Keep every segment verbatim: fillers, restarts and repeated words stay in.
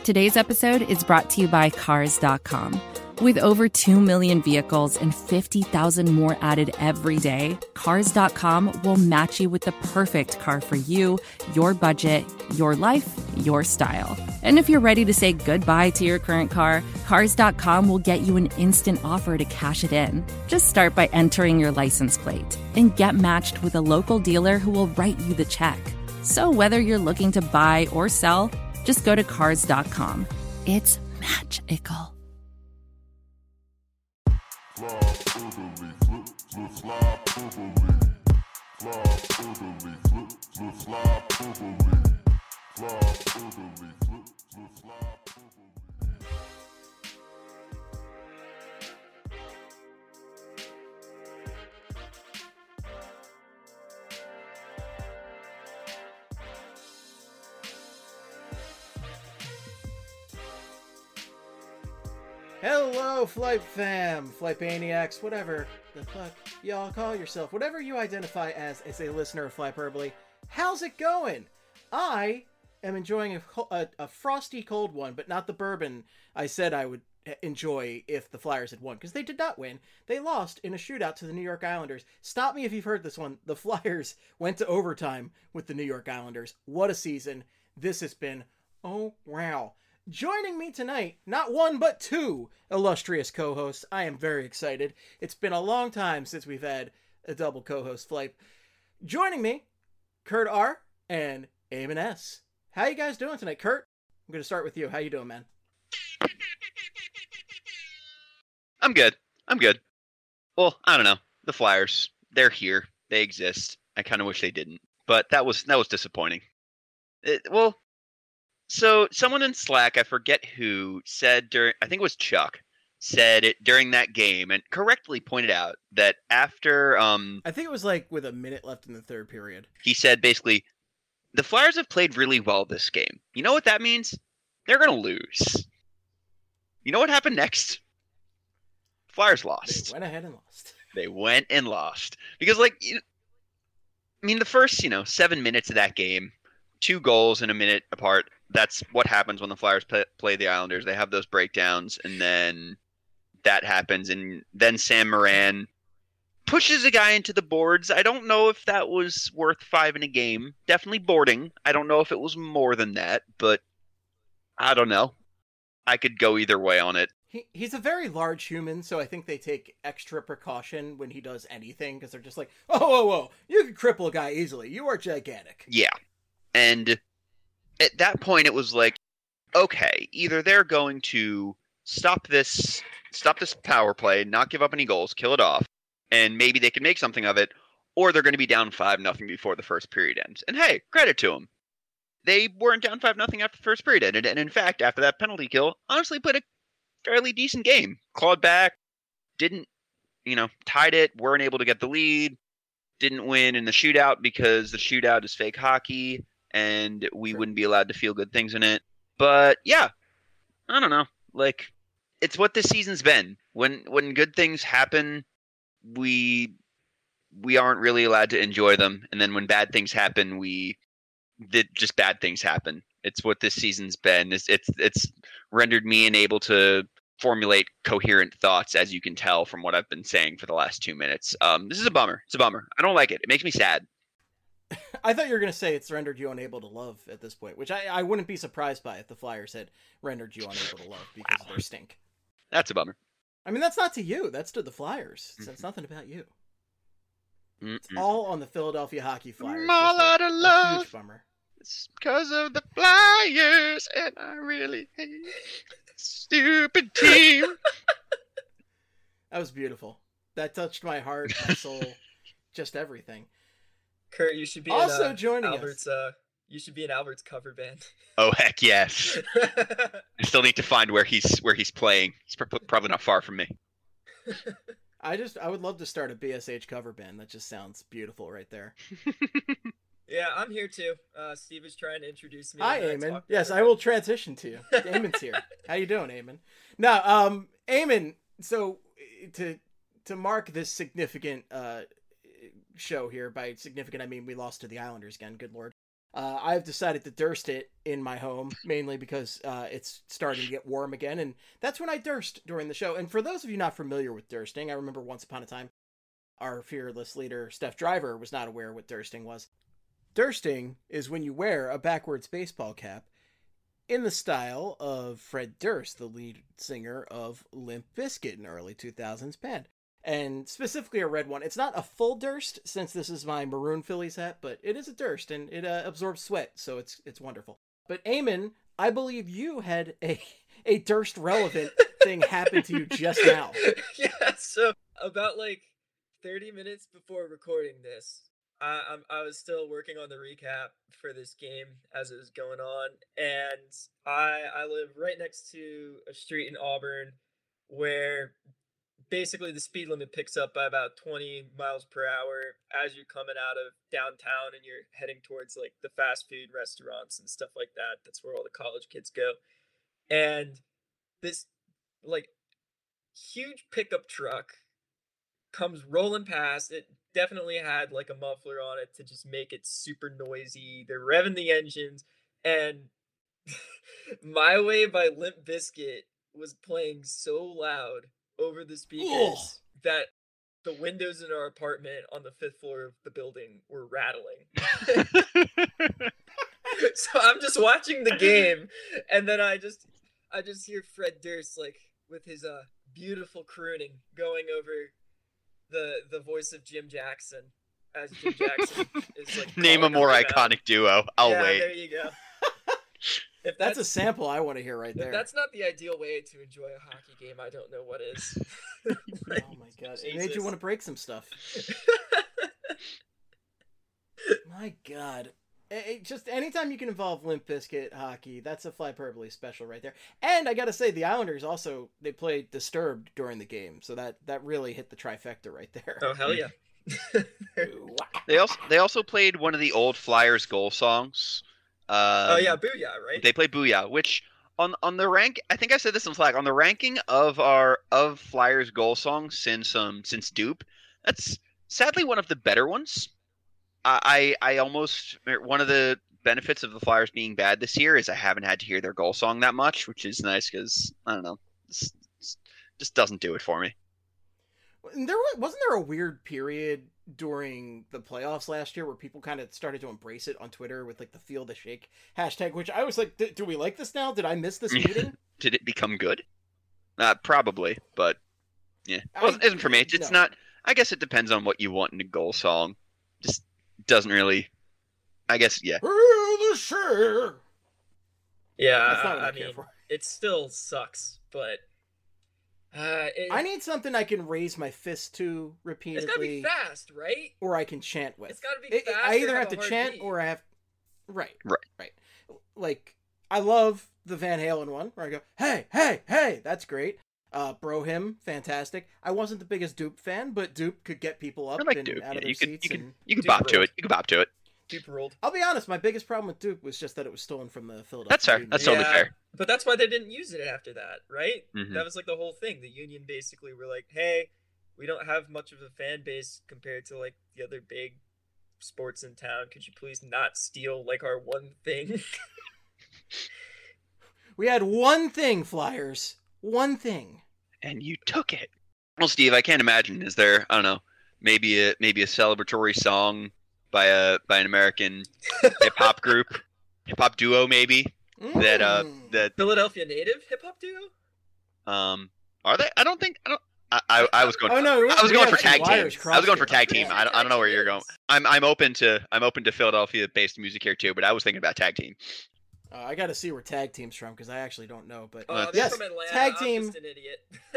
Today's episode is brought to you by Cars dot com. With over two million vehicles and fifty thousand more added every day, Cars dot com will match you with the perfect car for you, your budget, your life, your style. And if you're ready to say goodbye to your current car, Cars dot com will get you an instant offer to cash it in. Just start by entering your license plate and get matched with a local dealer who will write you the check. So whether you're looking to buy or sell, just go to Cars dot com. It's magical. Hello, Flight Fam, Flightmaniacs, whatever the fuck y'all call yourself, whatever you identify as as a listener of Flyperbole. How's it going? I am enjoying a, a, a frosty cold one, but not the bourbon I said I would enjoy if the Flyers had won, because they did not win. They lost in a shootout to the New York Islanders. Stop me if you've heard this one. The Flyers went to overtime with the New York Islanders. What a season this has been. Oh, wow. Joining me tonight, not one but two illustrious co-hosts. I am very excited. It's been a long time since we've had a double co-host flight. Joining me, Kurt R. and Eamon S. How you guys doing tonight? Kurt, I'm going to start with you. How you doing, man? I'm good. I'm good. Well, I don't know. The Flyers, they're here. They exist. I kind of wish they didn't, but that was that was disappointing. It, well, so someone in Slack, I forget who, said during, I think it was Chuck, said it during that game and correctly pointed out that after, um, I think it was like with a minute left in the third period. He said basically, the Flyers have played really well this game. You know what that means? They're going to lose. You know what happened next? Flyers lost. They went ahead and lost. They went and lost. Because, like, you know, I mean, the first, you know, seven minutes of that game, two goals in a minute apart, that's what happens when the Flyers play, play the Islanders. They have those breakdowns, and then that happens, and then Sam Morin pushes a guy into the boards. I don't know if that was worth five in a game. Definitely boarding. I don't know if it was more than that, but I don't know. I could go either way on it. He He's a very large human, so I think they take extra precaution when he does anything, because they're just like, oh, whoa, whoa, you can cripple a guy easily. You are gigantic. Yeah. And at that point, it was like, okay, either they're going to stop this, stop this power play, not give up any goals, kill it off, and maybe they can make something of it, or they're going to be down five nothing before the first period ends. And hey, credit to them. They weren't down five nothing after the first period ended, and in fact, after that penalty kill, honestly played a fairly decent game. Clawed back, didn't, you know, tied it, weren't able to get the lead, didn't win in the shootout because the shootout is fake hockey, and we Sure. wouldn't be allowed to feel good things in it. But yeah, I don't know. Like, it's what this season's been. When when good things happen, we we aren't really allowed to enjoy them, and then when bad things happen, we did just bad things happen. It's what this season's been. It's it's it's rendered me unable to formulate coherent thoughts, as you can tell from what I've been saying for the last two minutes. Um, this is a bummer. It's a bummer. I don't like it. It makes me sad. I thought you were going to say it's rendered you unable to love at this point, which I, I wouldn't be surprised by if the Flyers had rendered you unable to love because Wow. of their stink. That's a bummer. I mean, that's not to you. That's to the Flyers. It's, it's nothing about you. It's Mm-mm. all on the Philadelphia Hockey Flyers. I'm all Just a- out of a love. huge bummer. It's because of the Flyers, and I really hate this stupid team. That was beautiful. That touched my heart, my soul, just everything. Kurt, you should be Also in, uh, joining us. Albert's. Uh, you should be in Albert's cover band. Oh heck yes! I still need to find where he's where he's playing. He's pr- probably not far from me. I just, I would love to start a B S H cover band. That just sounds beautiful right there. Yeah, I'm here too. Uh, Steve is trying to introduce me. Hi, and, uh, Eamon. talk Yes, about I will transition to you. Eamon's here. How you doing, Eamon? Now, um, Eamon, so to to mark this significant uh show here, by significant I mean we lost to the Islanders again, good lord. Uh, I've decided to Durst it in my home, mainly because uh, it's starting to get warm again, and that's when I Durst during the show. And for those of you not familiar with Dursting, I remember once upon a time, our fearless leader, Steph Driver, was not aware what Dursting was. Dursting is when you wear a backwards baseball cap in the style of Fred Durst, the lead singer of Limp Bizkit, an early two thousands band. And specifically a red one. It's not a full Durst, since this is my maroon Phillies hat, but it is a Durst, and it uh, absorbs sweat, so it's it's wonderful. But Eamon, I believe you had a, a Durst-relevant thing happen to you just now. Yeah, so about like thirty minutes before recording this, I, I'm, I was still working on the recap for this game as it was going on, and I I live right next to a street in Auburn where basically the speed limit picks up by about twenty miles per hour as you're coming out of downtown and you're heading towards like the fast food restaurants and stuff like that. That's where all the college kids go. And this like huge pickup truck comes rolling past. It definitely had like a muffler on it to just make it super noisy. They're revving the engines, and My Way by Limp Bizkit was playing so loud over the speakers Ugh. that the windows in our apartment on the fifth floor of the building were rattling. So I'm just watching the game, and then I just I just hear Fred Durst like with his uh beautiful crooning going over the the voice of Jim Jackson as Jim Jackson is like name a more iconic out. duo. I'll yeah, wait. There you go. If that's, that's a sample I want to hear right there. If that's not the ideal way to enjoy a hockey game, I don't know what is. Like, oh my god. Jesus. It made you want to break some stuff. My god. It, it, just anytime you can involve Limp Bizkit hockey, that's a Flyperbole special right there. And I gotta say, the Islanders also, they played Disturbed during the game, so that, that really hit the trifecta right there. Oh, hell yeah. They also they also played one of the old Flyers goal songs. Um, oh yeah, Booyah, right? They played Booyah, which on on the rank, I think I said this on Slack, on the ranking of our of Flyers goal songs since um since Dupe, that's sadly one of the better ones. I I, I almost one of the benefits of the Flyers being bad this year is I haven't had to hear their goal song that much, which is nice because I don't know, this, this just doesn't do it for me. There wasn't there a weird period during the playoffs last year where people kind of started to embrace it on Twitter with like the Feel the Shake hashtag, which I was like, do we like this now? Did I miss this meeting? Did it become good? Uh, probably, but yeah, well, it isn't for me. It's no. not. I guess it depends on what you want in a goal song. Just doesn't really. I guess yeah. Feel the Shake. Yeah, That's not what I, I mean, for. It still sucks, but. Uh, it, I need something I can raise my fist to repeatedly. It's gotta be fast, right? Or I can chant with. It's gotta be it, fast. I either have, have to chant beat. or I have. Right, right, right. Like I love the Van Halen one where I go, "Hey, hey, hey!" That's great. Uh, Bro Hymn, fantastic. I wasn't the biggest Dupe fan, but Dupe could get people up like and Dupe. out yeah, of their you seats. Could, you and could you could bop to it. You could bop to it. Dupe ruled. I'll be honest. My biggest problem with Dupe was just that it was stolen from the Philadelphia. That's fair. Union. That's totally yeah, fair. But that's why they didn't use it after that, right? Mm-hmm. That was like the whole thing. The Union basically were like, "Hey, we don't have much of a fan base compared to like the other big sports in town. Could you please not steal like our one thing?" We had one thing, Flyers. One thing. And you took it. Well, Steve, I can't imagine. Is there? I don't know. Maybe a maybe a celebratory song by a by an American hip hop group, hip hop duo, maybe mm. that uh that Philadelphia native hip hop duo. Um, are they? I don't think. I don't. I, I, I was going. Oh no, I was going for tag team. Wires I was going for tag team. Yeah, I don't, I don't know where you're going. I'm I'm open to I'm open to Philadelphia-based music here too, but I was thinking about tag team. Uh, I got to see where tag team's from because I actually don't know. But uh, yes, from Atlanta. tag I'm team. Just an idiot.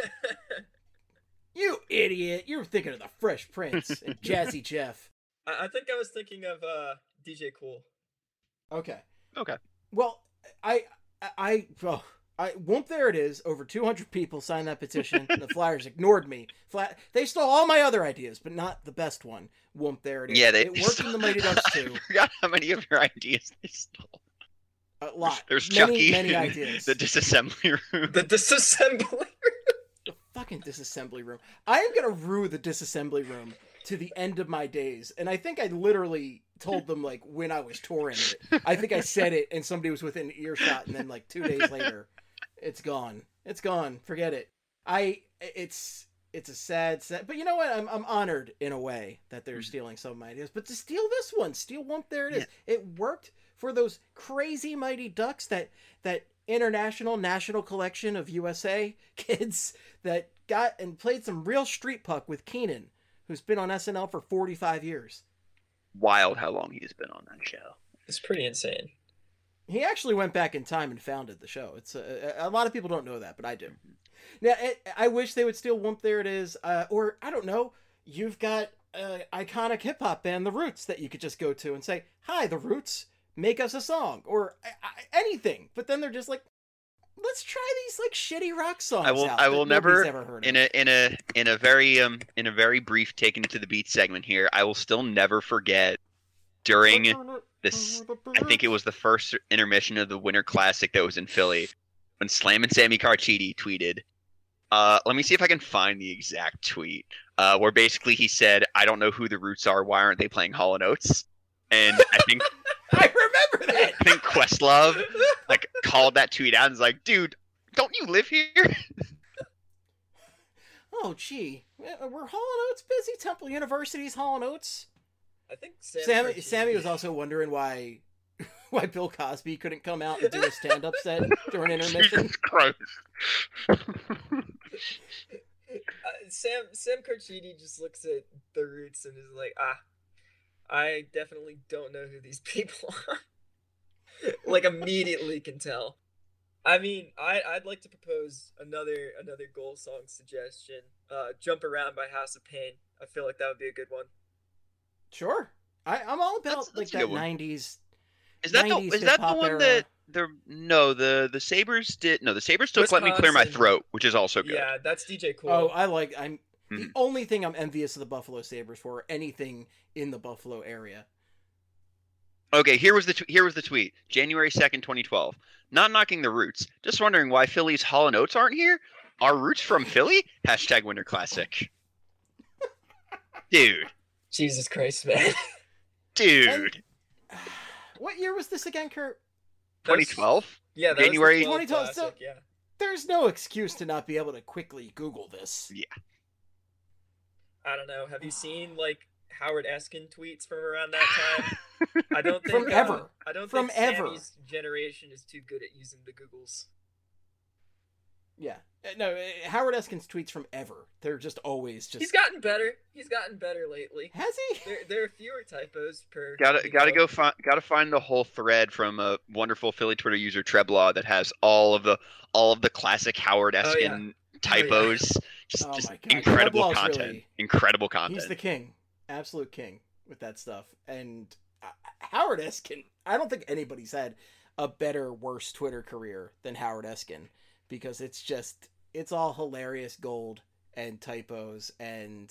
You idiot! You were thinking of the Fresh Prince and Jazzy Jeff. I, I think I was thinking of uh, D J Cool. Okay. Okay. Well, I I oh, I whoop, there it is. Over two hundred people signed that petition. The Flyers ignored me. Flat. They stole all my other ideas, but not the best one. Whoop, there it is. Yeah, they, it they worked stole... in the Mighty Ducks too. I forgot how many of your ideas they stole. A lot. There's many, Chucky. Many ideas. The disassembly room. The disassembly room. The fucking disassembly room. I am gonna rue the disassembly room to the end of my days. And I think I literally told them, like, when I was touring it. I think I said it, and somebody was within earshot, and then, like, two days later, it's gone. It's gone. Forget it. I, it's, it's a sad, sad, but you know what? I'm, I'm honored in a way that they're stealing some of my ideas, but to steal this one, steal Whoomp, there it is. Yeah. It worked for those crazy Mighty Ducks, that, that international national collection of U S A kids that got and played some real street puck with Keenan, who's been on S N L for forty-five years. Wild how long he's been on that show. It's pretty insane. He actually went back in time and founded the show. It's a, a lot of people don't know that, but I do. Now, it, I wish they would steal Whoomp, there it is. Uh, or, I don't know, you've got an iconic hip-hop band, The Roots, that you could just go to and say, hi, The Roots, make us a song. Or I, I, anything. But then they're just like, let's try these like shitty rock songs I will, out I will never, ever heard in a in a in a very um in a very brief taken it to the beat segment here, I will still never forget during this. I think it was the first intermission of the Winter Classic that was in Philly when Slam and Sammy Carchidi tweeted. Uh, let me see if I can find the exact tweet. Uh, where basically he said, "I don't know who the Roots are. Why aren't they playing Hall and Oates?" And I think I remember that. I think Questlove like called that tweet out and was like, "Dude, don't you live here?" Oh, gee, were Hall and Oates busy? Temple University's Hall and Oates. I think Sam Sammy, Sammy was also wondering why why Bill Cosby couldn't come out and do a stand-up set during intermission. Jesus Christ. uh, Sam Sam Carchidi just looks at the Roots and is like, ah, I definitely don't know who these people are. Like, immediately can tell. I mean, I, I'd like to propose another another goal song suggestion. Uh, Jump Around by House of Pain. I feel like that would be a good one. Sure. I, I'm all about that's, that's like that nineties. Is that the is that the one era. that the no the the Sabres did no the Sabres took Wisconsin. Let Me Clear My Throat, which is also good. Yeah, that's D J Cool. Oh, I like I'm mm-hmm. the only thing I'm envious of the Buffalo Sabres for, or anything in the Buffalo area. Okay, here was the t- here was the tweet. January second, twenty twelve. Not knocking the Roots. Just wondering why Philly's Hall and Oates aren't here? Are Roots from Philly? Hashtag Winter Classic. Dude. Jesus Christ, man. Dude. And, what year was this again, Kurt? twenty twelve? Yeah, that January was the twenty twelve. Classic, So, yeah. There's no excuse to not be able to quickly Google this. Yeah. I don't know. Have you seen, like, Howard Eskin tweets from around that time? I don't think from ever. Uh, I don't from think ever. Sammy's generation is too good at using the Googles. Yeah, no. Howard Eskin's tweets from ever. They're just always just. He's gotten better. He's gotten better lately. Has he? There, there are fewer typos per. Gotta gotta go find gotta find the whole thread from a wonderful Philly Twitter user Treblaw that has all of the all of the classic Howard Eskin oh, yeah. typos. Oh, yeah. Just, Oh just my God. incredible Treblaw's content. Really, incredible content. He's the king, absolute king with that stuff. And uh, Howard Eskin, I don't think anybody's had a better, worse Twitter career than Howard Eskin, because it's just it's all hilarious gold and typos, and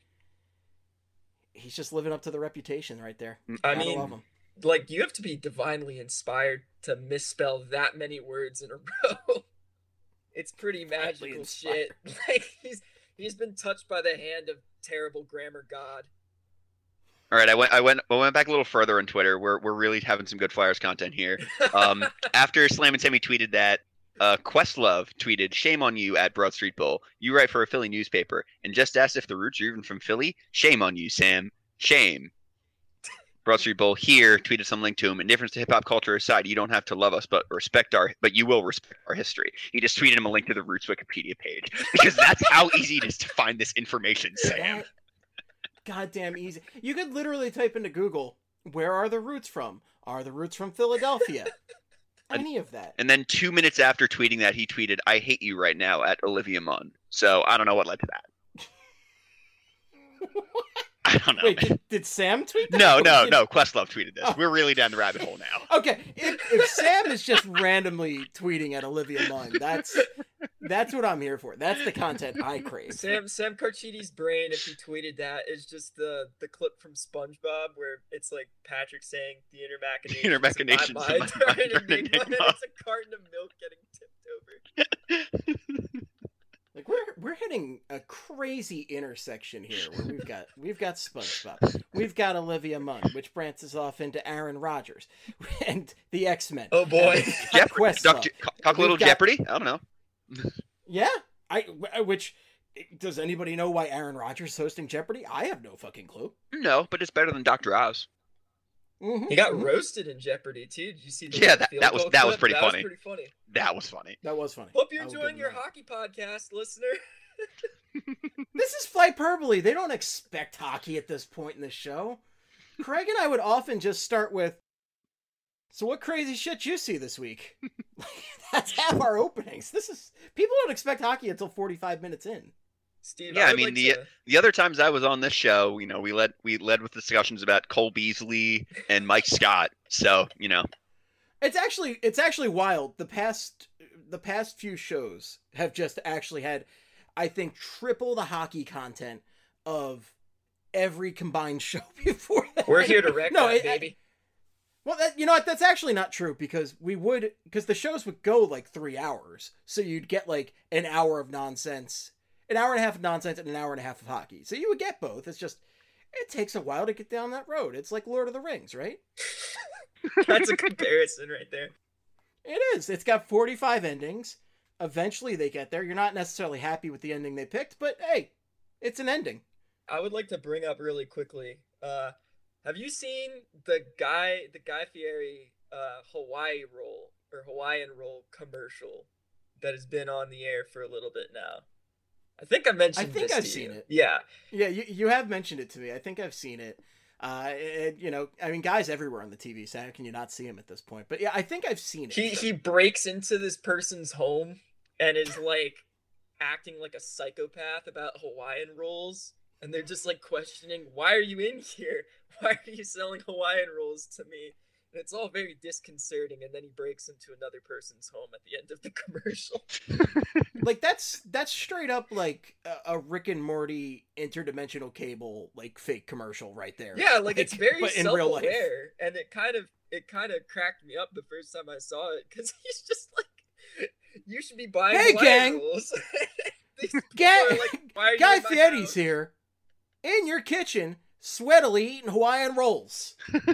he's just living up to the reputation right there. I Gotta mean, love him. like, you have to be divinely inspired to misspell that many words in a row. It's pretty magical shit. Like, he's he's been touched by the hand of terrible grammar god. All right, I went I went I went back a little further on Twitter. We're we're really having some good Flyers content here. Um, after Slam and Sammy tweeted that, uh, Questlove tweeted, "Shame on you at Broad Street Bull. You write for a Philly newspaper and just asked if the Roots are even from Philly. Shame on you, Sam. Shame." Broad Street Bull here tweeted some link to him. Indifference to hip hop culture aside, you don't have to love us, but respect our, but you will respect our history. He just tweeted him a link to the Roots Wikipedia page because that's how easy it is to find this information, Sam. Goddamn easy. You could literally type into Google, "Where are the Roots from? Are the Roots from Philadelphia?" Any of that. And then two minutes after tweeting that, he tweeted, "I hate you right now" at Olivia Munn. So I don't know what led to that. I don't know. Wait, did, did Sam tweet that? No, no, did... no. Questlove tweeted this. Oh. We're really down the rabbit hole now. Okay, if, if Sam is just randomly tweeting at Olivia Munn, that's that's what I'm here for. That's the content I crave. Sam Sam Carchidi's brain, if he tweeted that, is just the the clip from SpongeBob where it's like Patrick saying the inner machinations, inner machinations of my mind, of my mind, and enigma. it's a carton of milk getting tipped over. Like we're we're hitting a crazy intersection here where we've got we've got SpongeBob, we've got Olivia Munn, which branches off into Aaron Rodgers, and the X-Men. Oh boy, Jeopardy. Talk, talk a little got, Jeopardy. I don't know. Yeah, I which does anybody know why Aaron Rodgers is hosting Jeopardy? I have no fucking clue. No, but it's better than Doctor Oz. Mm-hmm, he got mm-hmm. roasted in Jeopardy too. Did you see? The Yeah, that, field that was goal that was clip? pretty that funny. Was pretty funny. That was funny. That was funny. Hope you're I will enjoying give your him that. hockey podcast, listener. This is Flyperbole. They don't expect hockey at this point in the show. Craig and I would often just start with, so what crazy shit you see this week? That's half our openings. This is people don't expect hockey until forty-five minutes in. Steve, Yeah, I, I would mean like the to... the other times I was on this show, you know, we led we led with discussions about Cole Beasley and Mike Scott. So you know, It's actually it's actually wild. The past the past few shows have just actually had, I think, triple the hockey content of every combined show before that. We're here to wreck no, that, it, baby. Well, that, you know what? That's actually not true because we would because the shows would go like three hours, so you'd get like an hour of nonsense, an hour and a half of nonsense, and an hour and a half of hockey. So you would get both. It's just it takes a while to get down that road. It's like Lord of the Rings, right? That's a comparison right there. It is. It's got forty-five endings. Eventually they get there. You're not necessarily happy with the ending they picked, but hey, it's an ending. I would like to bring up really quickly. Uh, have you seen the guy, the Guy Fieri uh, Hawaii roll or Hawaiian roll commercial that has been on the air for a little bit now? I think I mentioned. I think this I've to seen you. it. Yeah, Yeah, you you have mentioned it to me. I think I've seen it. Uh, it, you know, I mean, guys everywhere on the T V, so how can you not see him at this point? But yeah, I think I've seen it. he he breaks into this person's home and is like acting like a psychopath about Hawaiian rolls, and they're just like questioning, "Why are you in here? Why are you selling Hawaiian rolls to me?" And it's all very disconcerting, and then he breaks into another person's home at the end of the commercial. Like that's that's straight up like a, a Rick and Morty interdimensional cable like fake commercial right there. Yeah, like, it's very but in real life. self-aware, and it kind of it kind of cracked me up the first time I saw it because he's just like, "You should be buying Hey, Hawaiian gang! rolls." These people Gang, are like, "Why are you Guy in my Fieri's house?" here, in your kitchen, sweatily eating Hawaiian rolls.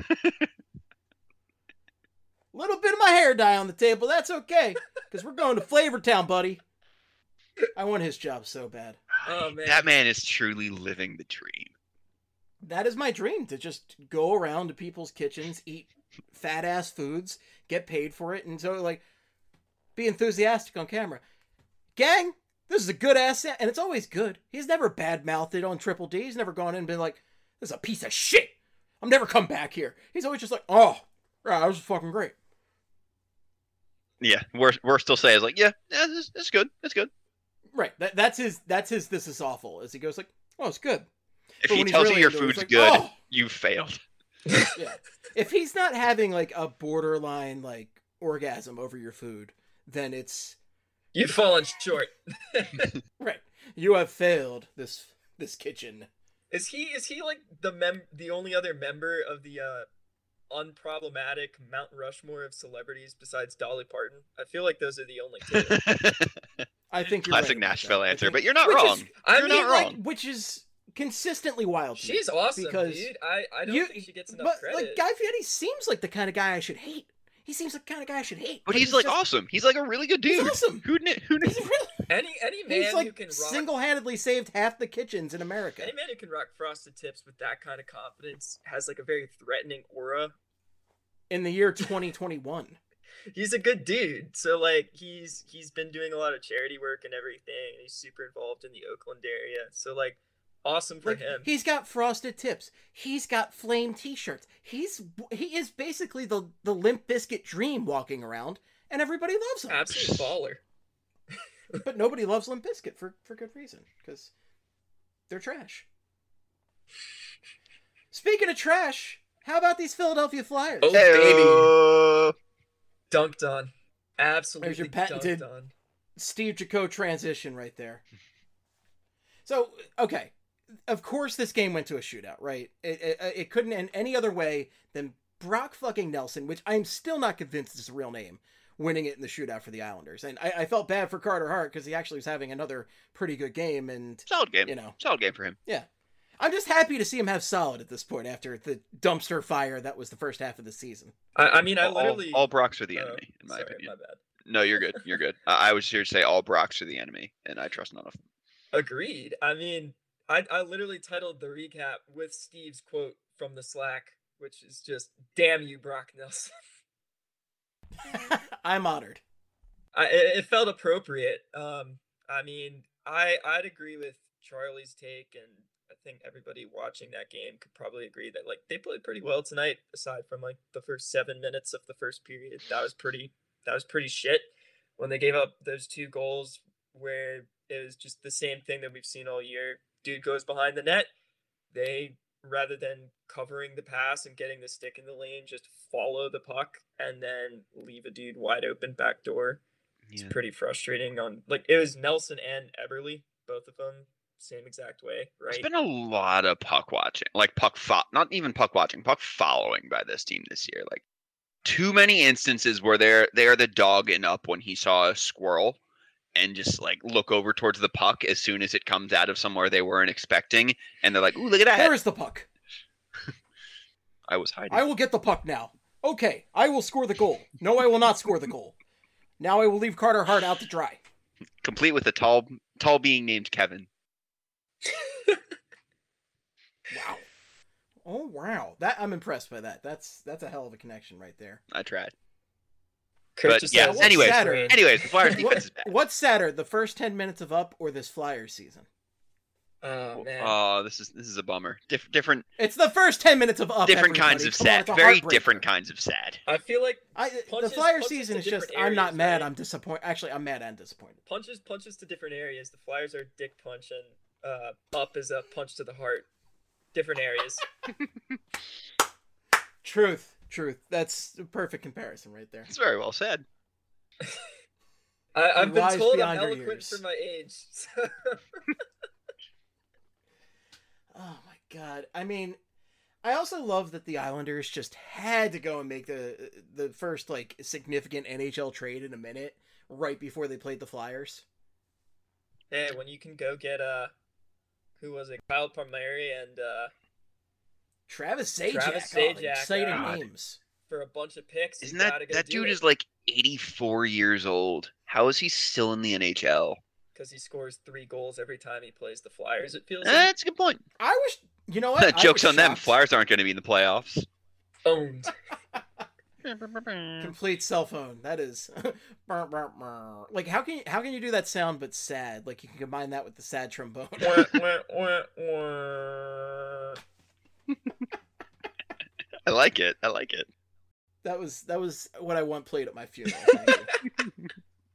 Little bit of my hair dye on the table. That's okay, because we're going to Flavor Town, buddy. I want his job so bad. Oh man, that man is truly living the dream. That is my dream, to just go around to people's kitchens, eat fat ass foods, get paid for it, and so like be enthusiastic on camera. Gang, this is a good ass, and it's always good. He's never bad mouthed it on Triple D. He's never gone in and been like, "This is a piece of shit. I'm never come back here." He's always just like, "Oh, yeah, that was fucking great." Yeah, we're we're still saying like, yeah, yeah, it's, it's good, it's good. Right. That that's his. That's his. This is awful. As he goes like, "Oh, it's good." If But he when he's tells really you your into it, food's it's like, good, "Oh!" you failed. Yeah. If he's not having like a borderline like orgasm over your food, then it's you've fallen short. right. You have failed this this kitchen. Is he is he like the mem the only other member of the uh unproblematic Mount Rushmore of celebrities besides Dolly Parton? I feel like those are the only two. I think you're Classic right about Nashville that. I answer, think- but you're not which wrong. is- I You're mean, not like, wrong. which is consistently wild to me. She's awesome, because dude. I, I don't you- think she gets enough but credit. like Guy Fieri seems like the kind of guy I should hate. He seems like the kind of guy I should hate. But he's like just- awesome. He's like a really good dude. He's awesome. Who knew? Who knew? He's really, any any man he's who like can rock single-handedly saved half the kitchens in America. any man who can rock frosted tips with that kind of confidence has like a very threatening aura. In the year twenty twenty-one. He's a good dude. So like he's he's been doing a lot of charity work and everything, and he's super involved in the Oakland area. So like awesome for Like, him. he's got frosted tips. He's got flame t-shirts. He's he is basically the the Limp Bizkit dream walking around, and everybody loves him. Absolute baller. But nobody loves Limp Bizkit for for good reason, because they're trash. Speaking of trash, how about these Philadelphia Flyers? Oh, Hey-o. Dunked on. Absolutely There's your patented- dunked on. Steve Jaco transition right there. So, okay. Of course this game went to a shootout, right? It, it, it couldn't end any other way than Brock fucking Nelson, which I'm still not convinced is a real name, winning it in the shootout for the Islanders. And I, I felt bad for Carter Hart because he actually was having another pretty good game. And solid game. You know, solid game for him. Yeah. I'm just happy to see him have solid at this point after the dumpster fire that was the first half of the season. I, I mean, I all, literally... All Brocks are the enemy, uh, in my sorry, opinion. my bad. No, you're good. You're good. I, I was here to say all Brocks are the enemy, and I trust none of them. Agreed. I mean, I, I literally titled the recap with Steve's quote from the Slack, which is just, damn you, Brock Nelson. I'm honored. I, it, it felt appropriate. Um, I mean, I, I'd agree with Charlie's take, and I think everybody watching that game could probably agree that, like, they played pretty well tonight, aside from, like, the first seven minutes of the first period. That was pretty, that was pretty shit. When they gave up those two goals where it was just the same thing that we've seen all year. Dude goes behind the net. They, rather than covering the pass and getting the stick in the lane, just follow the puck and then leave a dude wide open back door. It's yeah. pretty frustrating. On like it was Nelson and Eberle, both of them, same exact way, right? There's been a lot of puck watching, like puck fo- not even puck watching, puck following by this team this year. Like too many instances where they're they're the dog and up when he saw a squirrel and just like look over towards the puck as soon as it comes out of somewhere they weren't expecting, and they're like, "Ooh, look at that! Where is the puck?" I was hiding. I will get the puck now. Okay, I will score the goal. No, I will not score the goal. Now I will leave Carter Hart out to dry. Complete with a tall, tall being named Kevin. Wow. Oh wow, that I'm impressed by that. That's that's a hell of a connection right there. I tried. Kurt but just yeah, said, anyways, sadder? anyways, the Flyers defense what, is bad. What's sadder, the first ten minutes of Up or this Flyers season? Oh man. Oh, this is this is a bummer. Dif- different. It's the first ten minutes of Up. Different everybody. kinds of Come on, sad. Very different kinds of sad. I feel like I, punches, the Flyers punches season is just. areas, I'm not mad. right? I'm disappointed. Actually, I'm mad and disappointed. Punches, punches to different areas. The Flyers are dick punch, and uh, Up is a punch to the heart. Different areas. Truth, truth. That's a perfect comparison right there. It's very well said. I, I've been Wise told I'm beyond your eloquent years. for my age. So. Oh my god. I mean, I also love that the Islanders just had to go and make the the first like significant N H L trade in a minute right before they played the Flyers. Hey, when you can go get uh who was it? Kyle Palmieri and uh Travis Zajac. Travis Oh, Zajac, exciting God. names. For a bunch of picks. Isn't you that gotta go that do dude it. is like eighty-four years old? How is he still in the N H L? Because he scores three goals every time he plays the Flyers, it feels Eh, like. that's a good point. I wish you know what? I Joke's was on them. shocked. Flyers aren't going to be in the playoffs. Owned. Complete cell phone. That is like how can you, how can you do that sound but sad? Like you can combine that with the sad trombone. Wah, wah, wah, wah. I like it. I like it. That was that was what I want played at my funeral. Thank you.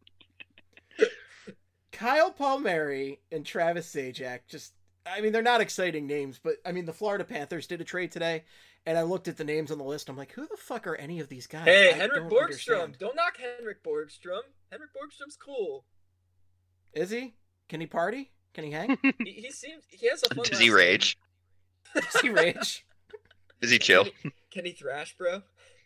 Kyle Palmieri and Travis Zajac, just, I mean, they're not exciting names, but, I mean, the Florida Panthers did a trade today, and I looked at the names on the list, I'm like, who the fuck are any of these guys? Hey, I Henrik don't Borgstrom. understand. Don't knock Henrik Borgstrom. Henrik Borgstrom's cool. Is he? Can he party? Can he hang? He, he seems he has a fun Does last he name. rage? Does he rage? Is he chill? Can he, can he thrash, bro?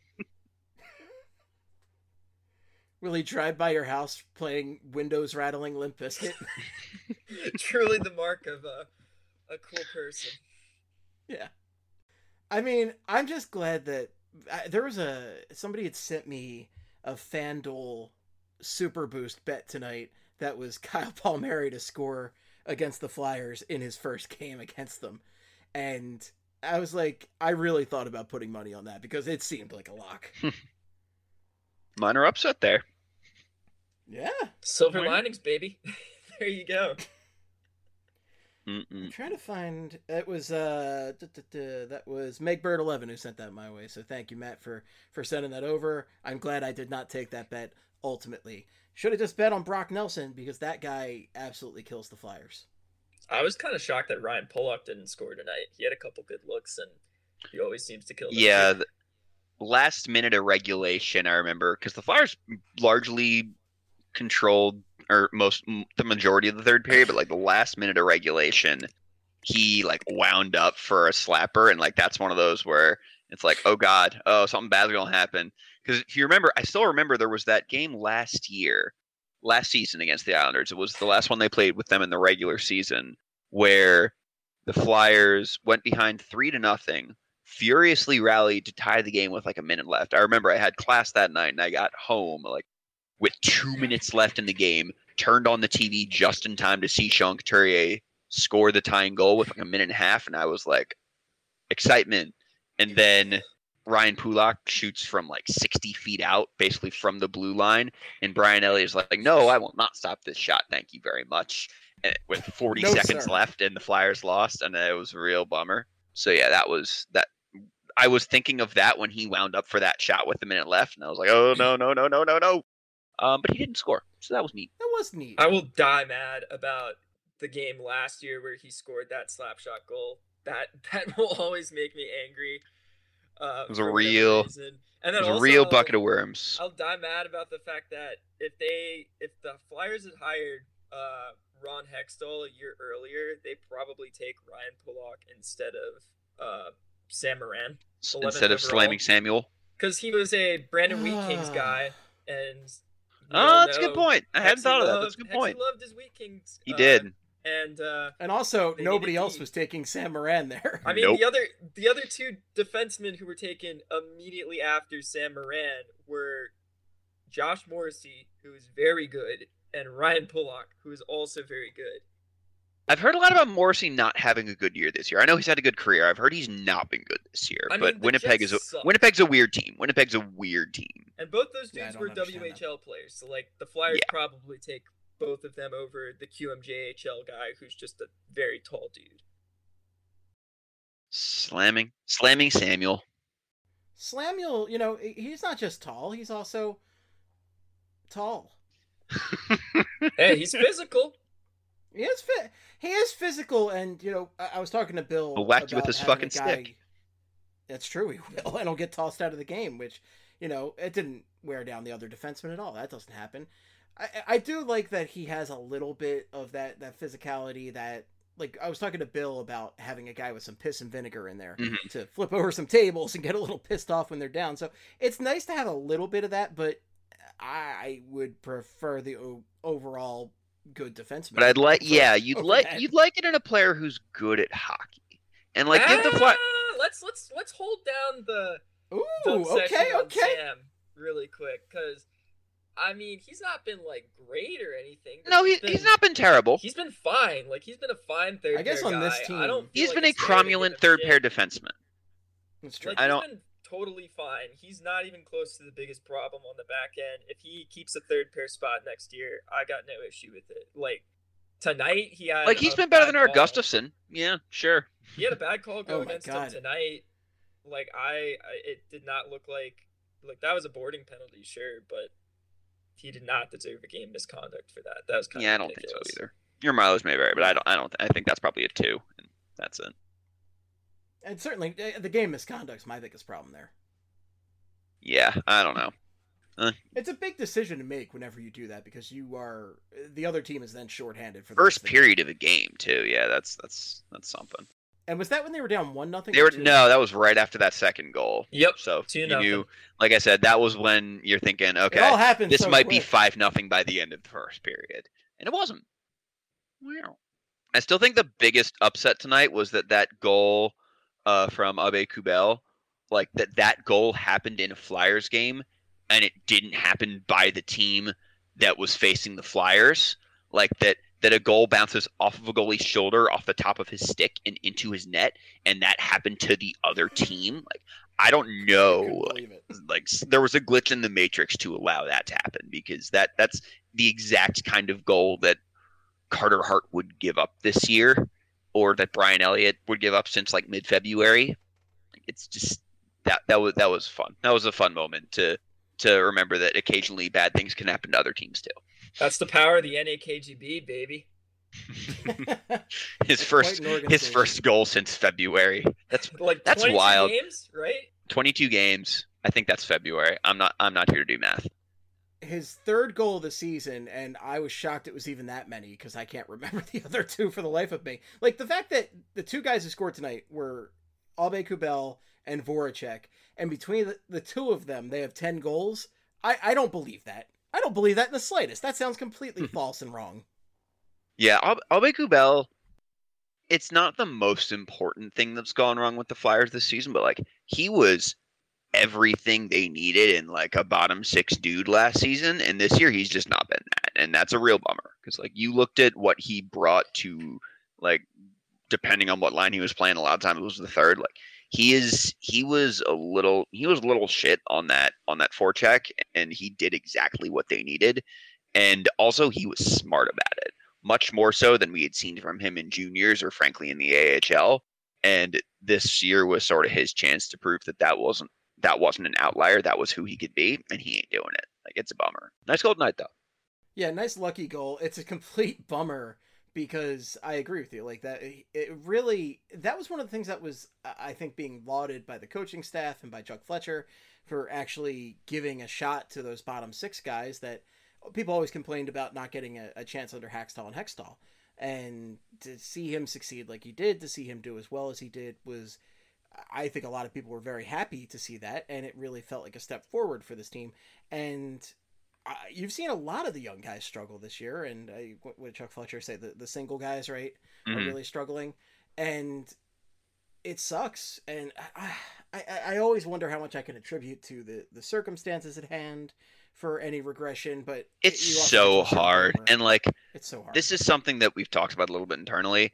Will he drive by your house playing windows rattling Limp Bizkit? Truly the mark of a, a cool person. Yeah. I mean, I'm just glad that I, there was a somebody had sent me a FanDuel Super Boost bet tonight that was Kyle Palmieri to score against the Flyers in his first game against them. And I was like, I really thought about putting money on that because it seemed like a lock. Minor upset there. Yeah. Silver Where- linings, baby. There you go. Mm-mm. I'm trying to find it was uh duh, duh, duh, that was Meg Bird eleven who sent that my way. So thank you, Matt, for for sending that over. I'm glad I did not take that bet ultimately. Should have just bet on Brock Nelson because that guy absolutely kills the Flyers. I was kind of shocked that Ryan Pollock didn't score tonight. He had a couple good looks, and he always seems to kill them. Yeah, the last minute of regulation, I remember, because the Flyers largely controlled or most the majority of the third period, but like the last minute of regulation, he like wound up for a slapper, and like that's one of those where it's like, oh god, oh something bad's gonna happen, Because if you remember, I still remember there was that game last year, last season against the Islanders. It was the last one they played with them in the regular season, where the Flyers went behind three to nothing, furiously rallied to tie the game with like a minute left. I remember I had class that night and I got home like with two minutes left in the game, turned on the T V just in time to see Sean Couturier score the tying goal with like a minute and a half, and I was like, excitement. And then Ryan Pulock shoots from like sixty feet out, basically from the blue line, and Brian Elliott's like, no, I will not stop this shot, thank you very much. And with forty No, seconds sir. left, and the Flyers lost, and it was a real bummer. So yeah, that was that. I was thinking of that when he wound up for that shot with a minute left, and I was like, oh no, no, no, no, no, no. Um, but he didn't score, so that was neat. That was neat. I will die mad about the game last year where he scored that slap shot goal. That that will always make me angry. Uh, It was a for whatever reason. reason. It And then was a also, real I'll- bucket of worms. I'll die mad about the fact that if they if the Flyers had hired uh, Ron Hextall a year earlier, they probably take Ryan Pulock instead of uh, Sam Moran. S- eleventh Instead of overall. slamming Samuel. Because he was a Brandon Wheat Kings guy, and we Oh, all that's a good know point. I hadn't Hexy thought of that. loved- That's a good Hexy point. loved his Wheat Kings. He uh, did. and uh, And also, They nobody needed else D. was taking Sam Moran there. I mean, Nope. the other the other two defensemen who were taken immediately after Sam Moran were Josh Morrissey, who is very good, and Ryan Pulock, who is also very good. I've heard a lot about Morrissey not having a good year this year. I know he's had a good career. I've heard he's not been good this year. I but mean, the Winnipeg Jets is a suck. Winnipeg's a weird team. Winnipeg's a weird team. And both those Yeah, I dudes don't were understand W H L players, so like the Flyers Yeah. probably take both of them over the Q M J H L guy, who's just a very tall dude. Slamming, slamming Samuel. Slamuel, you know, he's not just tall, he's also tall. Hey, he's physical. He is fit. He is physical, and you know, I, I was talking to Bill. He'll whack you with about his having a fucking guy- stick. That's true, he will, and he'll get tossed out of the game, which, you know, it didn't wear down the other defenseman at all. That doesn't happen. I, I do like that he has a little bit of that that physicality that, like, I was talking to Bill about having a guy with some piss and vinegar in there Mhm. to flip over some tables and get a little pissed off when they're down. So it's nice to have a little bit of that, but I would prefer the o- overall good defenseman. But I'd like, over- yeah, you'd over like, that. you'd like it in a player who's good at hockey, and like give the Fly. Ah, let's let's let's hold down the Ooh, dump okay, section on okay. Sam really quick, because I mean he's not been like great or anything. but No, he, been, he's not been terrible. He's been fine. Like he's been a fine third. I guess pair on guy. this team- I don't. feel He's like been a it's fair to give cromulent him third shit. pair defenseman. That's true. Like, I he's don't- been totally fine. He's not even close to the biggest problem on the back end. If he keeps a third pair spot next year, I got no issue with it. Like tonight, he had Like he's a been better bad than our call. Gustafson. Yeah, yeah, He had a bad call go Oh my against God. him tonight. Like I, I, it did not look like like that was a boarding penalty, sure, but he did not deserve a game misconduct for that. That was kind Yeah, I of don't think so ridiculous. either. Your mileage may vary, but I don't. I don't. I think that's probably a two, and that's it. And certainly, uh, the game misconduct's my biggest problem there. Yeah, I don't know. It's a big decision to make whenever you do that because you are the other team is then shorthanded for the First rest of the period of the game too. Yeah, that's that's that's something. game. And was that when they were down one nothing? They were no, that was right after that second goal. Yep. So Two you nothing. knew, like I said, that was when you're thinking, It all okay, happened. this so might be quick. five nothing by the end of the first period, and it wasn't. Wow. I still think the biggest upset tonight was that that goal uh, from Abe Kubel, like that that goal happened in a Flyers game, and it didn't happen by the team that was facing the Flyers. Like that that a goal bounces off of a goalie's shoulder, off the top of his stick, and into his net, and that happened to the other team. Like I don't I know. couldn't Like, believe it. like s- there was a glitch in the matrix to allow that to happen because that that's the exact kind of goal that Carter Hart would give up this year or that Brian Elliott would give up since like mid-February. Like, it's just that that was that was fun. That was a fun moment to to remember that occasionally bad things can happen to other teams too. That's the power of the N A K G B, baby. His first an his organization. first goal since February. That's Like That's twenty-two wild. games, right? twenty-two games. I think that's February. I'm not I'm not here to do math. His third goal of the season, and I was shocked it was even that many because I can't remember the other two for the life of me. Like the fact that the two guys who scored tonight were Abe Kubel and Voracek, and between the, the two of them, they have ten goals. I, I don't believe that. I don't believe that in the slightest. That sounds completely false and wrong. Yeah, Al- Aubé-Kubel, it's not the most important thing that's gone wrong with the Flyers this season, but like he was everything they needed in like a bottom six dude last season, and this year he's just not been that, and that's a real bummer because like you looked at what he brought to like depending on what line he was playing, a lot of times it was the third. Like he is, he was a little, he was a little shit on that on that forecheck, and he did exactly what they needed, and also he was smart about it, much more so than we had seen from him in juniors or frankly in the A H L. And this year was sort of his chance to prove that that wasn't that wasn't an outlier. That was who he could be, and he ain't doing it. Like it's a bummer. Nice goal tonight though. Yeah, nice lucky goal. It's a complete bummer because I agree with you. Like that, it really, that was one of the things that was, I think, being lauded by the coaching staff and by Chuck Fletcher for actually giving a shot to those bottom six guys that people always complained about not getting a, a chance under Hackstall and Hextall. And to see him succeed like he did, to see him do as well as he did was, I think a lot of people were very happy to see that. And it really felt like a step forward for this team. And Uh, you've seen a lot of the young guys struggle this year, and uh, what, what did Chuck Fletcher say? The, the single guys, right, mm-hmm. are really struggling, and it sucks. And I, I, I always wonder how much I can attribute to the, the circumstances at hand for any regression, but it's so hard. And like, it's so hard. This is something that we've talked about a little bit internally.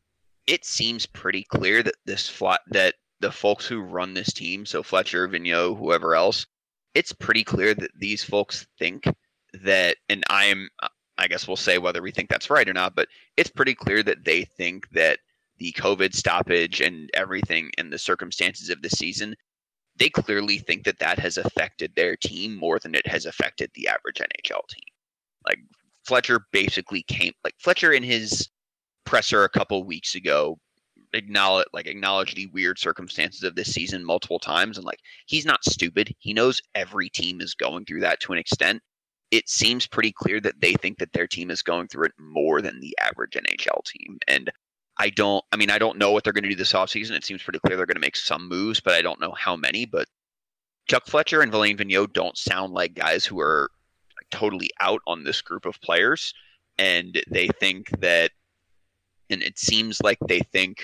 It seems pretty clear that this flat that the folks who run this team, so Fletcher, Vigneault, whoever else, it's pretty clear that these folks think that, and I'm, I guess we'll say whether we think that's right or not, but it's pretty clear that they think that the COVID stoppage and everything and the circumstances of the season, they clearly think that that has affected their team more than it has affected the average N H L team. Like Fletcher basically came, like Fletcher in his presser a couple weeks ago, acknowledge like acknowledge the weird circumstances of this season multiple times, and like he's not stupid. He knows every team is going through that to an extent. It seems pretty clear that they think that their team is going through it more than the average N H L team. And I don't I mean I don't know what they're going to do this offseason. It seems pretty clear they're going to make some moves, but I don't know how many. But Chuck Fletcher and Alain Vigneault don't sound like guys who are like, totally out on this group of players, and they think that, and it seems like they think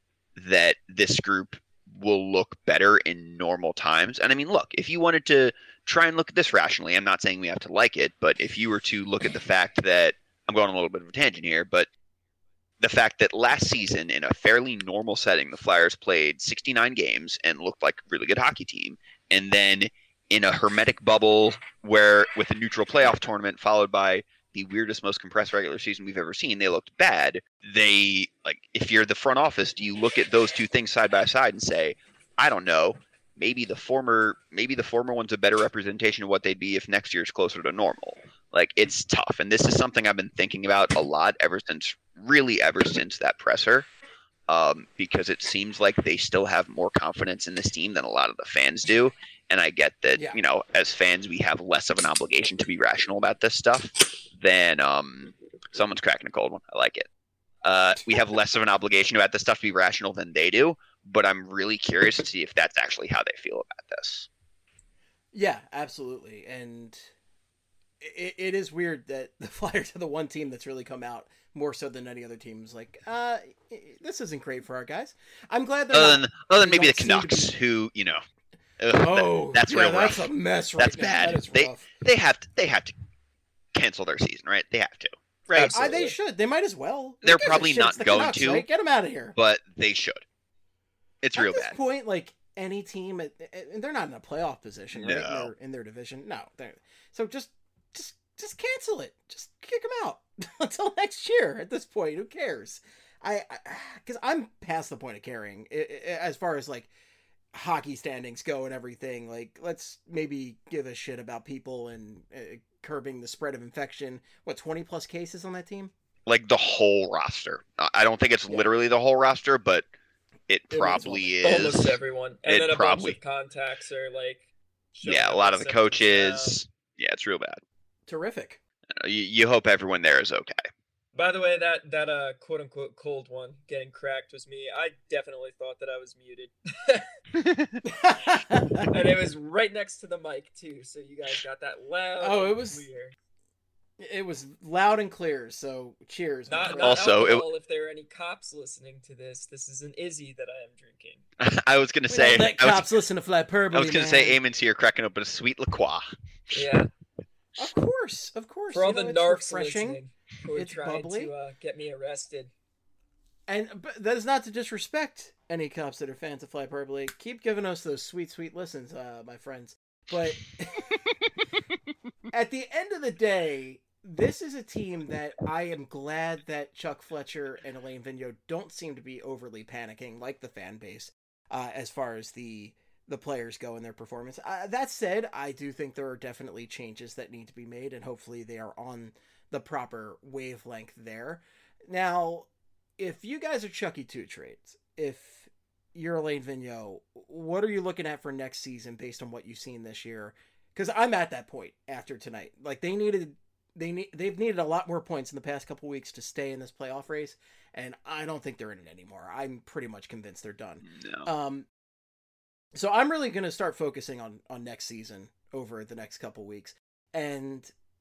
that this group will look better in normal times. And I mean, look, if you wanted to try and look at this rationally, I'm not saying we have to like it, but if you were to look at the fact that, I'm going on a little bit of a tangent here, but the fact that last season in a fairly normal setting, the Flyers played sixty-nine games and looked like a really good hockey team. And then in a hermetic bubble where with a neutral playoff tournament followed by the weirdest, most compressed regular season we've ever seen, they looked bad. They, like, if you're the front office, do you look at those two things side by side and say, I don't know, maybe the former, maybe the former one's a better representation of what they'd be if next year's closer to normal? Like, it's tough. And this is something I've been thinking about a lot ever since, really ever since that presser, um, because it seems like they still have more confidence in this team than a lot of the fans do. And I get that, yeah. you know, as fans, we have less of an obligation to be rational about this stuff than um, someone's cracking a cold one. I like it. Uh, we have less of an obligation about this stuff to be rational than they do. But I'm really curious to see if that's actually how they feel about this. Yeah, absolutely. And it, it is weird that the Flyers are the one team that's really come out more so than any other teams. Like, uh, this isn't great for our guys. I'm glad that other than, other than maybe the Canucks, be... who you know. Ugh, oh, that, that's yeah, real that's rough. a mess right that's now. bad. That is they rough. they have to they have to cancel their season, right? They have to, right? I, they should. They might as well. They're probably not the going Canucks, to. Right? Get them out of here. But they should. It's At real this bad. Point, like any team, and they're not in a playoff position, right? No. In their, in their division, no. They're, so just, just, just cancel it. Just kick them out until next year. At this point, who cares? I, because I'm past the point of caring as far as like hockey standings go and everything. Like, let's maybe give a shit about people and uh, curbing the spread of infection. What, twenty plus cases on that team? Like the whole roster. I don't think it's yeah. literally the whole roster, but it, it probably is. Almost everyone. And it then a probably, bunch of contacts are like... Yeah, a lot of the coaches. Now. Yeah, it's real bad. Terrific. You, you hope everyone there is okay. By the way, that, that uh, quote-unquote cold one getting cracked was me. I definitely thought that I was muted. And it was right next to the mic too, so you guys got that loud. Oh, and it was- clear. It was loud and clear, so cheers. my Not, friend. not Also, it- alcohol. If there are any cops listening to this, this is an Izzy that I am drinking. I was gonna We say. don't let I was, cops listen to Flyperbole, I was gonna say, man. Eamon's here cracking open a sweet LaCroix. Yeah, Of course, of course. for all you know, the it's narcs refreshing. listening who are It's trying bubbly. to uh, get me arrested. And but that is not to disrespect any cops that are fans of Flyperbole. Keep giving us those sweet, sweet listens, uh, my friends. But at the end of the day, this is a team that I am glad that Chuck Fletcher and Elaine Vigneault don't seem to be overly panicking like the fan base uh, as far as the the players go in their performance. Uh, that said, I do think there are definitely changes that need to be made, and hopefully they are on the proper wavelength there. Now, if you guys are Chucky Two Trades, if you're Elaine Vigneault, what are you looking at for next season based on what you've seen this year? Because I'm at that point after tonight. Like they needed, they need, they've needed a lot more points in the past couple weeks to stay in this playoff race, and I don't think they're in it anymore. I'm pretty much convinced they're done. No. Um, so I'm really going to start focusing on on next season over the next couple weeks, and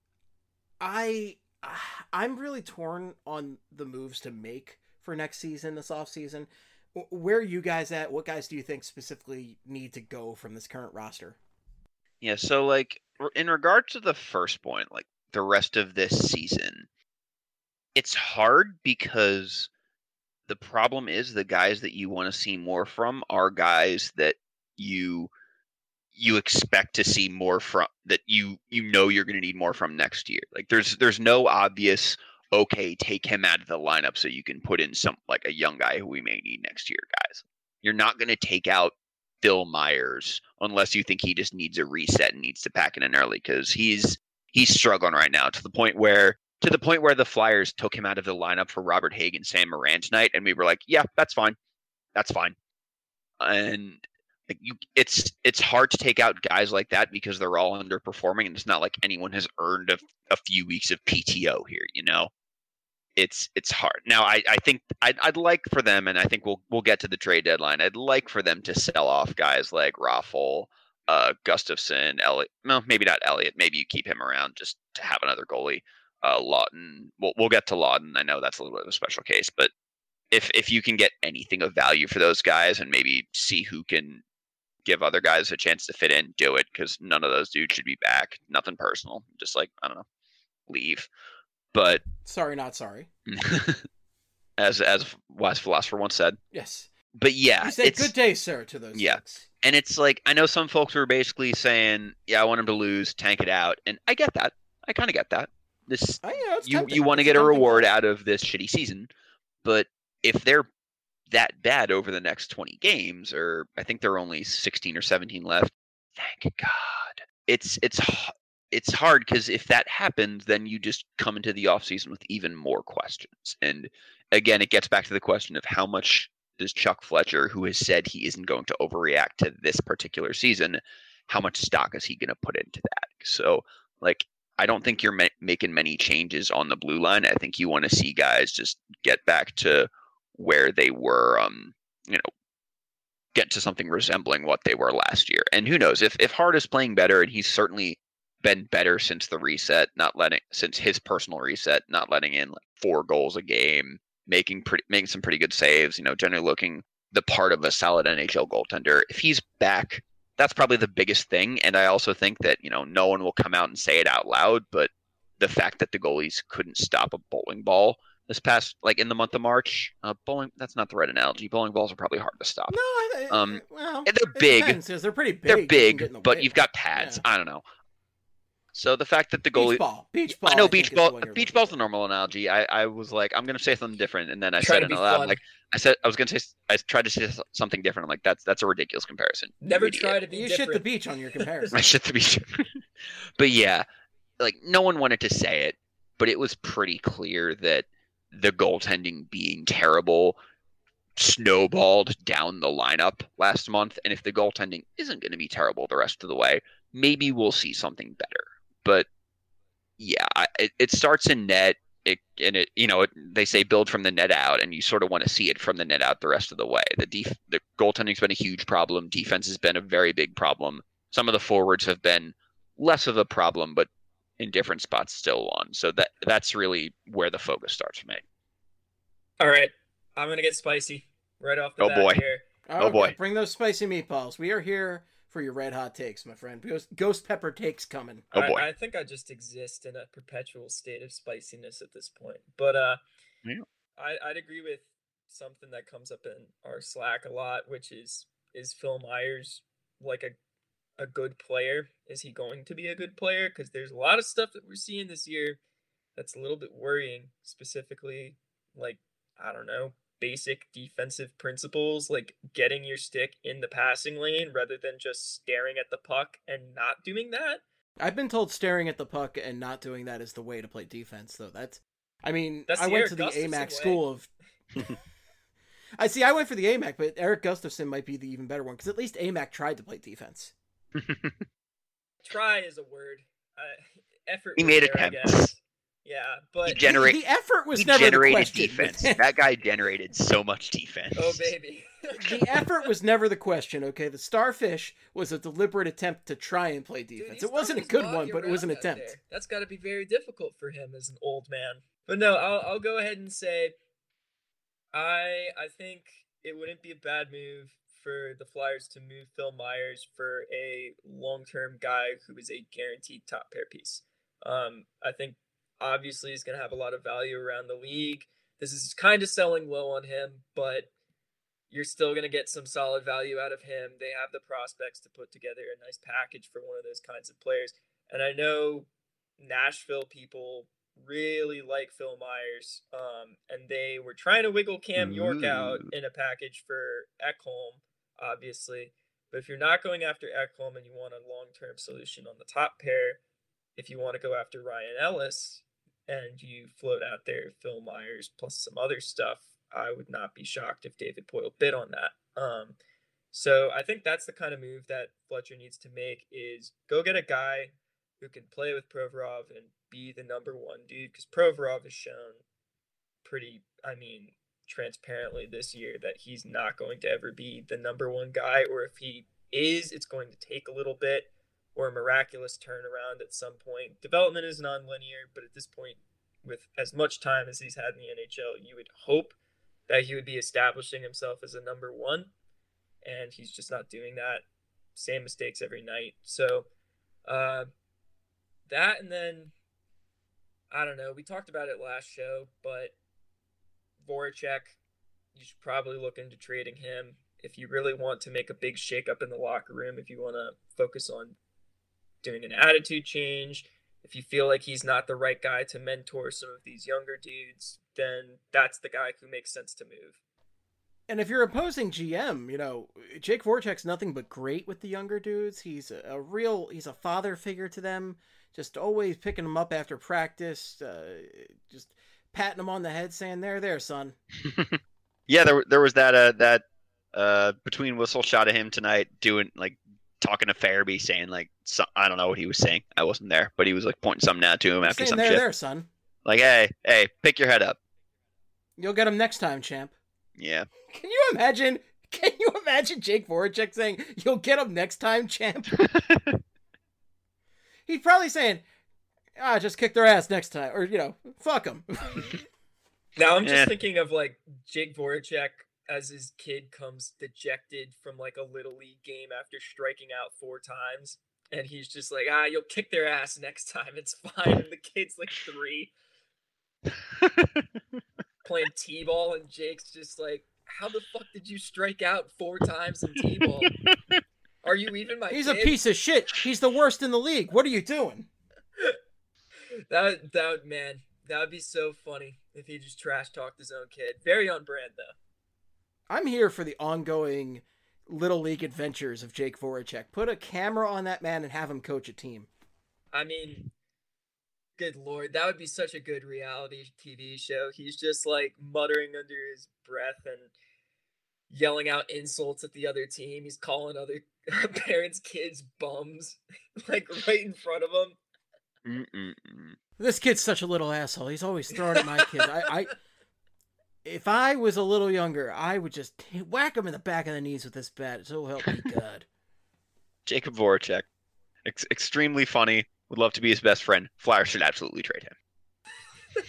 I I'm really torn on the moves to make for next season, this off season. Where are you guys at? What guys do you think specifically need to go from this current roster? Yeah, so like r- in regard to the first point, like the rest of this season, it's hard because the problem is the guys that you want to see more from are guys that you you expect to see more from, that you you know you're going to need more from next year. Like there's there's no obvious, okay, take him out of the lineup so you can put in some like a young guy who we may need next year, guys. You're not going to take out Phil Myers unless you think he just needs a reset and needs to pack it in early, because he's he's struggling right now to the point where to the point where the Flyers took him out of the lineup for Robert Haig and Sam Moran tonight, and we were like, yeah, that's fine, that's fine. And like you, it's it's hard to take out guys like that because they're all underperforming, and it's not like anyone has earned a, a few weeks of P T O here, you know. It's it's hard. Now I, I think I'd I'd like for them, and I think we'll we'll get to the trade deadline. I'd like for them to sell off guys like Raffle, uh, Gustafson, Elliott. No, maybe not Elliott. Maybe you keep him around just to have another goalie. Uh, Lawton. We'll we'll get to Lawton. I know that's a little bit of a special case, but if if you can get anything of value for those guys and maybe see who can give other guys a chance to fit in, do it, because none of those dudes should be back. Nothing personal. Just like, I don't know, leave. But Sorry, not sorry. as as wise philosopher once said. Yes. But yeah, You said it's good day, sir, to those Yeah. folks. and it's like I know some folks were basically saying, yeah, I want him to lose, tank it out, and I get that. I kind of get that. This Oh, yeah, it's you tempting. you want to It's get a tempting reward goal. out of this shitty season, but if they're that bad over the next twenty games, or I think there are only sixteen or seventeen left, thank God. It's it's h- it's hard because if that happens, then you just come into the offseason with even more questions. And again, it gets back to the question of how much does Chuck Fletcher, who has said he isn't going to overreact to this particular season, how much stock is he going to put into that? So, like, I don't think you're ma- making many changes on the blue line. I think you want to see guys just get back to where they were, um, you know, get to something resembling what they were last year. And who knows, if if Hart is playing better, and he's certainly been better since the reset, not letting since his personal reset, not letting in like four goals a game, making pretty making some pretty good saves, you know, generally looking the part of a solid N H L goaltender. If he's back, that's probably the biggest thing. And I also think that, you know, no one will come out and say it out loud, but the fact that the goalies couldn't stop a bowling ball this past, like in the month of March, uh, bowling, that's not the right analogy. Bowling balls are probably hard to stop. No, I, I, Um, well, and they're it big. depends, 'cause they're pretty big. They're You can get big, in the but way. you've got pads. Yeah. I don't know. So the fact that the Beach goalie, ball. Beach ball. I know think, beach is the ball. one you're Beach looking ball's for. the normal analogy. I, I was like, I'm gonna say something different, and then I Trying said to it be out loud. fun. Like I said, I was gonna say, I tried to say something different. I'm like, that's that's a ridiculous comparison. you Never idiot. try to be You shit different. the beach on your comparison. I shit the beach. But yeah, like no one wanted to say it, but it was pretty clear that the goaltending being terrible snowballed down the lineup last month. And if the goaltending isn't going to be terrible the rest of the way, maybe we'll see something better. But yeah, I, it, it starts in net. it and it you know it, they say build from the net out, and you sort of want to see it from the net out the rest of the way. The def- the goaltending's been a huge problem. Defense has been a very big problem. Some of the forwards have been less of a problem, but in different spots still one. So that that's really where the focus starts for me. All right, I'm gonna get spicy right off the Oh, bat boy. here. Oh, boy. Bring those spicy meatballs. We are here for your red hot takes, my friend. Ghost, ghost pepper takes coming. Oh, boy. I, I think I just exist in a perpetual state of spiciness at this point. But uh, Yeah. I, I'd agree with something that comes up in our Slack a lot, which is is Phil Myers like a a good player? Is he going to be a good player? Because there's a lot of stuff that we're seeing this year that's a little bit worrying. Specifically, like I don't know, basic defensive principles, like getting your stick in the passing lane rather than just staring at the puck and not doing that. I've been told staring at the puck and not doing that is the way to play defense, though. That's, I mean, That's I the went Eric to the Gustafson A M A C way. school of. I see. I went for the A M A C, but Eric Gustafson might be the even better one because at least A M A C tried to play defense. Try is a word. Uh, effort. He was made there, I attempts. guess. Yeah, but He generate- the effort was he never the generated question. defense. That guy generated so much defense. oh baby. The effort was never the question, okay? The Starfish was a deliberate attempt to try and play Dude, defense. he's it wasn't a throwing good his one, body but it was an around out attempt. there. That's got to be very difficult for him as an old man. But no, I'll I'll go ahead and say I I think it wouldn't be a bad move for the Flyers to move Phil Myers for a long-term guy who is a guaranteed top pair piece. Um, I think obviously he's going to have a lot of value around the league. This is kind of selling low on him, but you're still going to get some solid value out of him. They have the prospects to put together a nice package for one of those kinds of players. And I know Nashville people really like Phil Myers, um, and they were trying to wiggle Cam York out Ooh. in a package for Ekholm, obviously. But if you're not going after Ekholm and you want a long-term solution on the top pair, if you want to go after Ryan Ellis and you float out there Phil Myers plus some other stuff, I would not be shocked if David Poile bid on that. Um, so I think that's the kind of move that Fletcher needs to make is go get a guy who can play with Provorov and be the number one dude, because Provorov has shown pretty, I mean, transparently this year that he's not going to ever be the number one guy, or if he is, it's going to take a little bit or a miraculous turnaround at some point. Development is non-linear, but at this point, with as much time as he's had in the N H L, you would hope that he would be establishing himself as a number one, and he's just not doing that. Same mistakes every night. So uh, that, and then, I don't know, we talked about it last show, but Voracek, you should probably look into trading him if you really want to make a big shakeup in the locker room, if you want to focus on doing an attitude change, if you feel like he's not the right guy to mentor some of these younger dudes, then that's the guy who makes sense to move. And if you're opposing G M, you know, Jake Voracek's nothing but great with the younger dudes. He's a, a real, he's a father figure to them, just always picking them up after practice, uh, just patting them on the head saying, there, there, son. Yeah, there there was that uh that uh between whistle shot of him tonight doing like talking to Farabee saying like some, I don't know what he was saying. I wasn't there, but he was like pointing something out to him after saying, some there, shit. there, son. Like, hey, hey, pick your head up. You'll get him next time, champ. Yeah. Can you imagine? Can you imagine Jake Voracek saying, "You'll get him next time, champ"? He's probably saying, "Ah, just kick their ass next time," or you know, "Fuck them." Now I'm just Yeah. thinking of like Jake Voracek as his kid comes dejected from like a little league game after striking out four times, and he's just like, "Ah, you'll kick their ass next time. It's fine." And the kid's like three, playing t-ball, and Jake's just like, how the fuck did you strike out four times in t-ball? Are you even my He's kid? a piece of shit. He's the worst in the league. What are you doing? That would, that would, man, that would be so funny if he just trash talked his own kid. Very on brand though. I'm here for the ongoing little league adventures of Jake Voracek. Put a camera on that man and have him coach a team. I mean, good lord, that would be such a good reality T V show. He's just like muttering under his breath and yelling out insults at the other team. He's calling other parents' kids bums, like right in front of them. Mm-mm-mm. This kid's such a little asshole. He's always throwing at my kids. I, I, if I was a little younger, I would just whack him in the back of the knees with this bat. So help me God. Jacob Voracek, Ex- extremely funny. Would love to be his best friend. Flyers should absolutely trade him.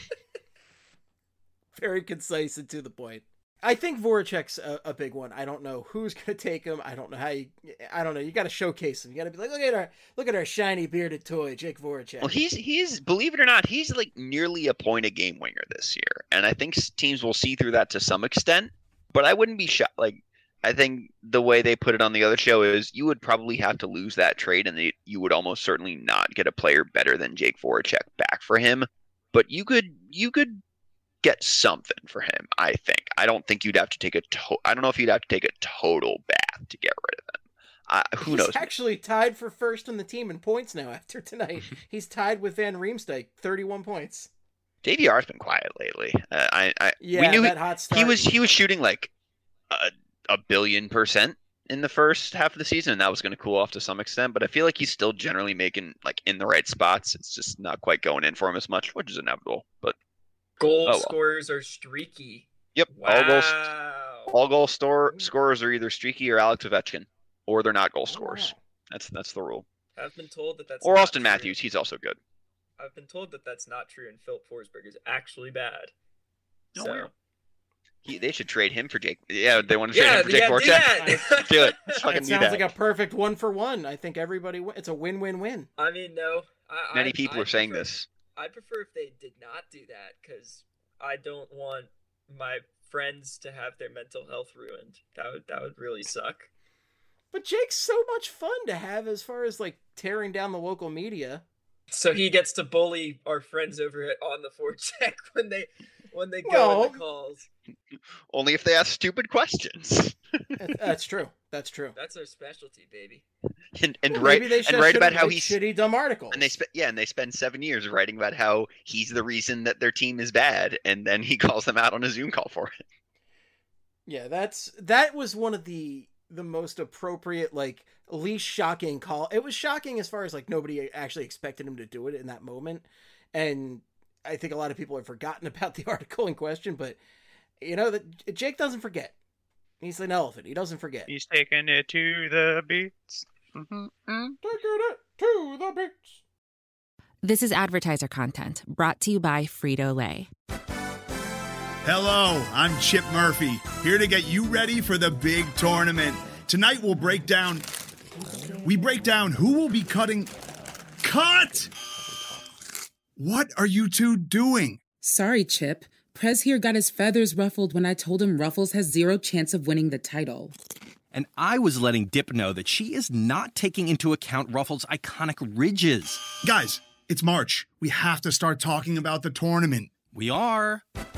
Very concise and to the point. I think Voracek's a, a big one. I don't know who's going to take him. I don't know how you. I don't know. You got to showcase him. You got to be like, look at our, look at our shiny bearded toy, Jake Voracek. Well, he's he's believe it or not, he's like nearly a point a game winger this year, and I think teams will see through that to some extent. But I wouldn't be shocked. Like, I think the way they put it on the other show is you would probably have to lose that trade, and they, you would almost certainly not get a player better than Jake Voracek back for him. But you could you could. get something for him, I think. I don't think you'd have to take a to- I don't know if you'd have to take a total bath to get rid of him. Uh, who He's knows? He's actually tied for first in the team in points now after tonight. He's tied with Van Riemsdyk, thirty-one points. J V R's been quiet lately. Uh, I, I yeah, we knew that he, hot start. he was he was shooting like a, a billion percent in the first half of the season, and that was going to cool off to some extent. But I feel like he's still generally making like in the right spots. It's just not quite going in for him as much, which is inevitable. But Goal oh, well. scorers are streaky. Yep. Wow. All goal, all goal store, scorers are either streaky or Alex Ovechkin, or they're not goal scorers. Oh. That's that's the rule. I've been told that that's or not Austin true. Matthews. He's also good. I've been told that that's not true, and Philip Forsberg is actually bad. No, so. he, they should trade him for Jake. Yeah, they want to trade yeah, him for Jake yeah, do Voracek. that. Do it. Let's fucking It do sounds that. like a perfect one for one. I think everybody. Win- it's a win-win-win. I mean, no. I, Many I, people I are saying prefer, this. I prefer if they did not do that, because I don't want my friends to have their mental health ruined. That would that would really suck. But Jake's so much fun to have as far as like tearing down the local media. So he gets to bully our friends over at On the Forecheck when they when they go Well, in the calls. Only if they ask stupid questions. That's true. That's true. That's our specialty, baby. and and Well, write maybe they and should- write about shouldn't how write he's shitty dumb articles. and they spend yeah, and they spend seven years writing about how he's the reason that their team is bad, and then he calls them out on a Zoom call for it. Yeah, that's that was one of the the most appropriate, like least shocking call. It was shocking as far as like nobody actually expected him to do it in that moment, and I think a lot of people have forgotten about the article in question. But you know that Jake doesn't forget. He's an elephant. He doesn't forget. He's taking it to the beats. Mm-hmm. Taking it to the beach. This is advertiser content brought to you by Frito-Lay. Hello, I'm Chip Murphy, here to get you ready for the big tournament. Tonight we'll break down... We break down who will be cutting... Cut! What are you two doing? Sorry, Chip. Prez here got his feathers ruffled when I told him Ruffles has zero chance of winning the title. And I was letting Dip know that she is not taking into account Ruffles' iconic ridges. Guys, it's March. We have to start talking about the tournament. We are.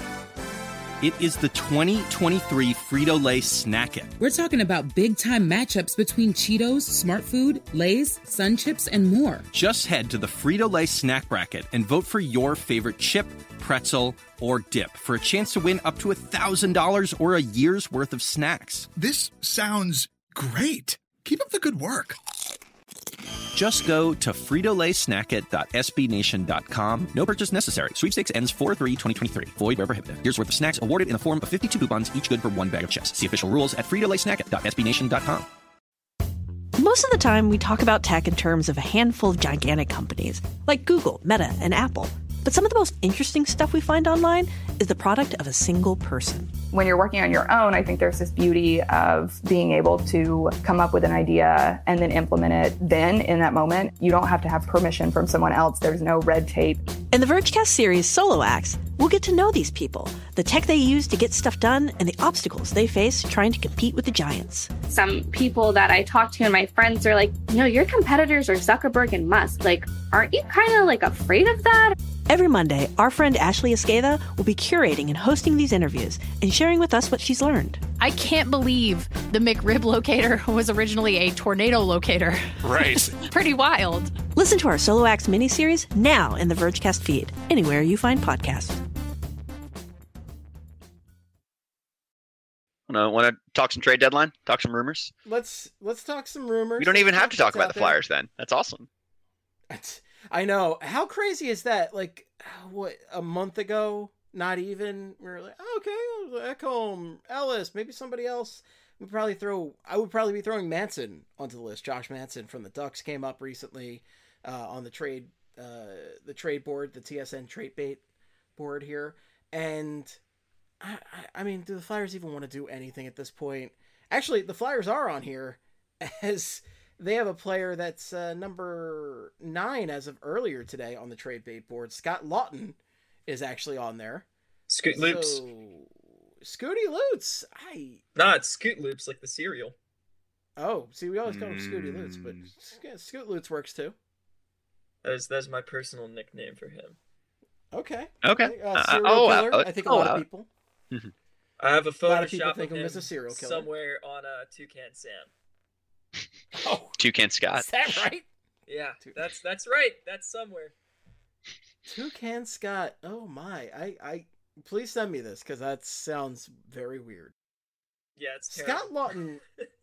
It is the twenty twenty-three Frito-Lay Snack It. We're talking about big-time matchups between Cheetos, Smart Food, Lay's, Sun Chips, and more. Just head to the Frito-Lay Snack Bracket and vote for your favorite chip, pretzel, or dip for a chance to win up to one thousand dollars or a year's worth of snacks. This sounds great. Keep up the good work. Just go to frito lay snack it dot s b nation dot com. No purchase necessary. Sweepstakes ends four three twenty twenty-three. Void where prohibited. Year's worth of snacks awarded in the form of fifty-two coupons, each good for one bag of chips. See official rules at frito lay snack it dot s b nation dot com. Most of the time, we talk about tech in terms of a handful of gigantic companies, like Google, Meta, and Apple. But some of the most interesting stuff we find online is the product of a single person. When you're working on your own, I think there's this beauty of being able to come up with an idea and then implement it then in that moment. You don't have to have permission from someone else. There's no red tape. In the Vergecast series Solo Acts, we'll get to know these people, the tech they use to get stuff done, and the obstacles they face trying to compete with the giants. Some people that I talk to and my friends are like, you know, your competitors are Zuckerberg and Musk. Like, aren't you kind of like afraid of that? Every Monday, our friend Ashley Esqueda will be curating and hosting these interviews and sharing with us what she's learned. I can't believe the McRib locator was originally a tornado locator. Right. Pretty wild. Listen to our Solo Acts miniseries now in the Vergecast feed, anywhere you find podcasts. Want to talk some trade deadline? Talk some rumors? Let's let's talk some rumors. We don't even Let's have to talk what's about out the there. Flyers then. That's awesome. I know. How crazy is that? Like, what, a month ago? Not even. We were like, oh, okay, Ekholm, Ellis, maybe somebody else. We'd probably throw. I would probably be throwing Manson onto the list. Josh Manson from the Ducks came up recently uh, on the trade, uh, the trade board, the T S N trade bait board here, and I, I, I mean, do the Flyers even want to do anything at this point? Actually, the Flyers are on here as they have a player that's uh, number nine as of earlier today on the trade bait board. Scott Lawton is actually on there. Scoot Loops. So, Scooty Loops. I Nah, it's Scoot Loops, like the cereal. Oh, see, we always call him Scooty Loops, but Scoot Loops works too. That's that's my personal nickname for him. Okay. Okay. Uh, Uh, serial oh, killer. uh, I think a oh, lot uh, of people. I have a A lot of people Photoshop think of him him as a serial killer. somewhere on uh, Toucan Sam. Oh, Toucan Scott. is that right? Yeah, that's that's right. That's somewhere. Toucan Scott. Oh my! I, I please send me this because that sounds very weird. Yeah, it's terrible. Scott Lawton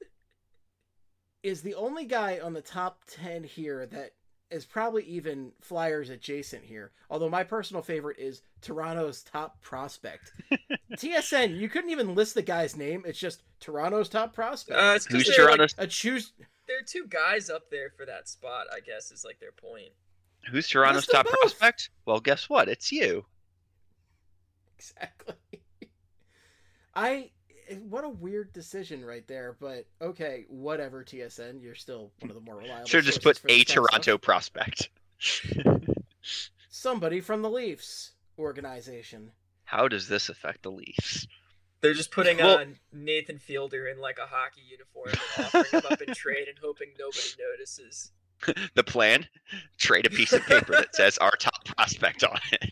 is the only guy on the top ten here that is probably even Flyers adjacent here. Although my personal favorite is Toronto's top prospect. T S N, you couldn't even list the guy's name. It's just Toronto's top prospect. Uh, it's 'cause Who's they're, Toronto's? A choose. There are two guys up there for that spot, I guess, is like their point. Who's Toronto's List them top both. prospect? Well, guess what? It's you. Exactly. I. What a weird decision right there, but okay, whatever. T S N, you're still one of the more reliable. Should have just sources put for this a kind of Toronto stuff. prospect. Somebody from the Leafs organization. How does this affect the Leafs? They're just putting Well- on Nathan Fielder in like a hockey uniform and offering him up in trade and hoping nobody notices. The plan? Trade a piece of paper that says our top prospect on it.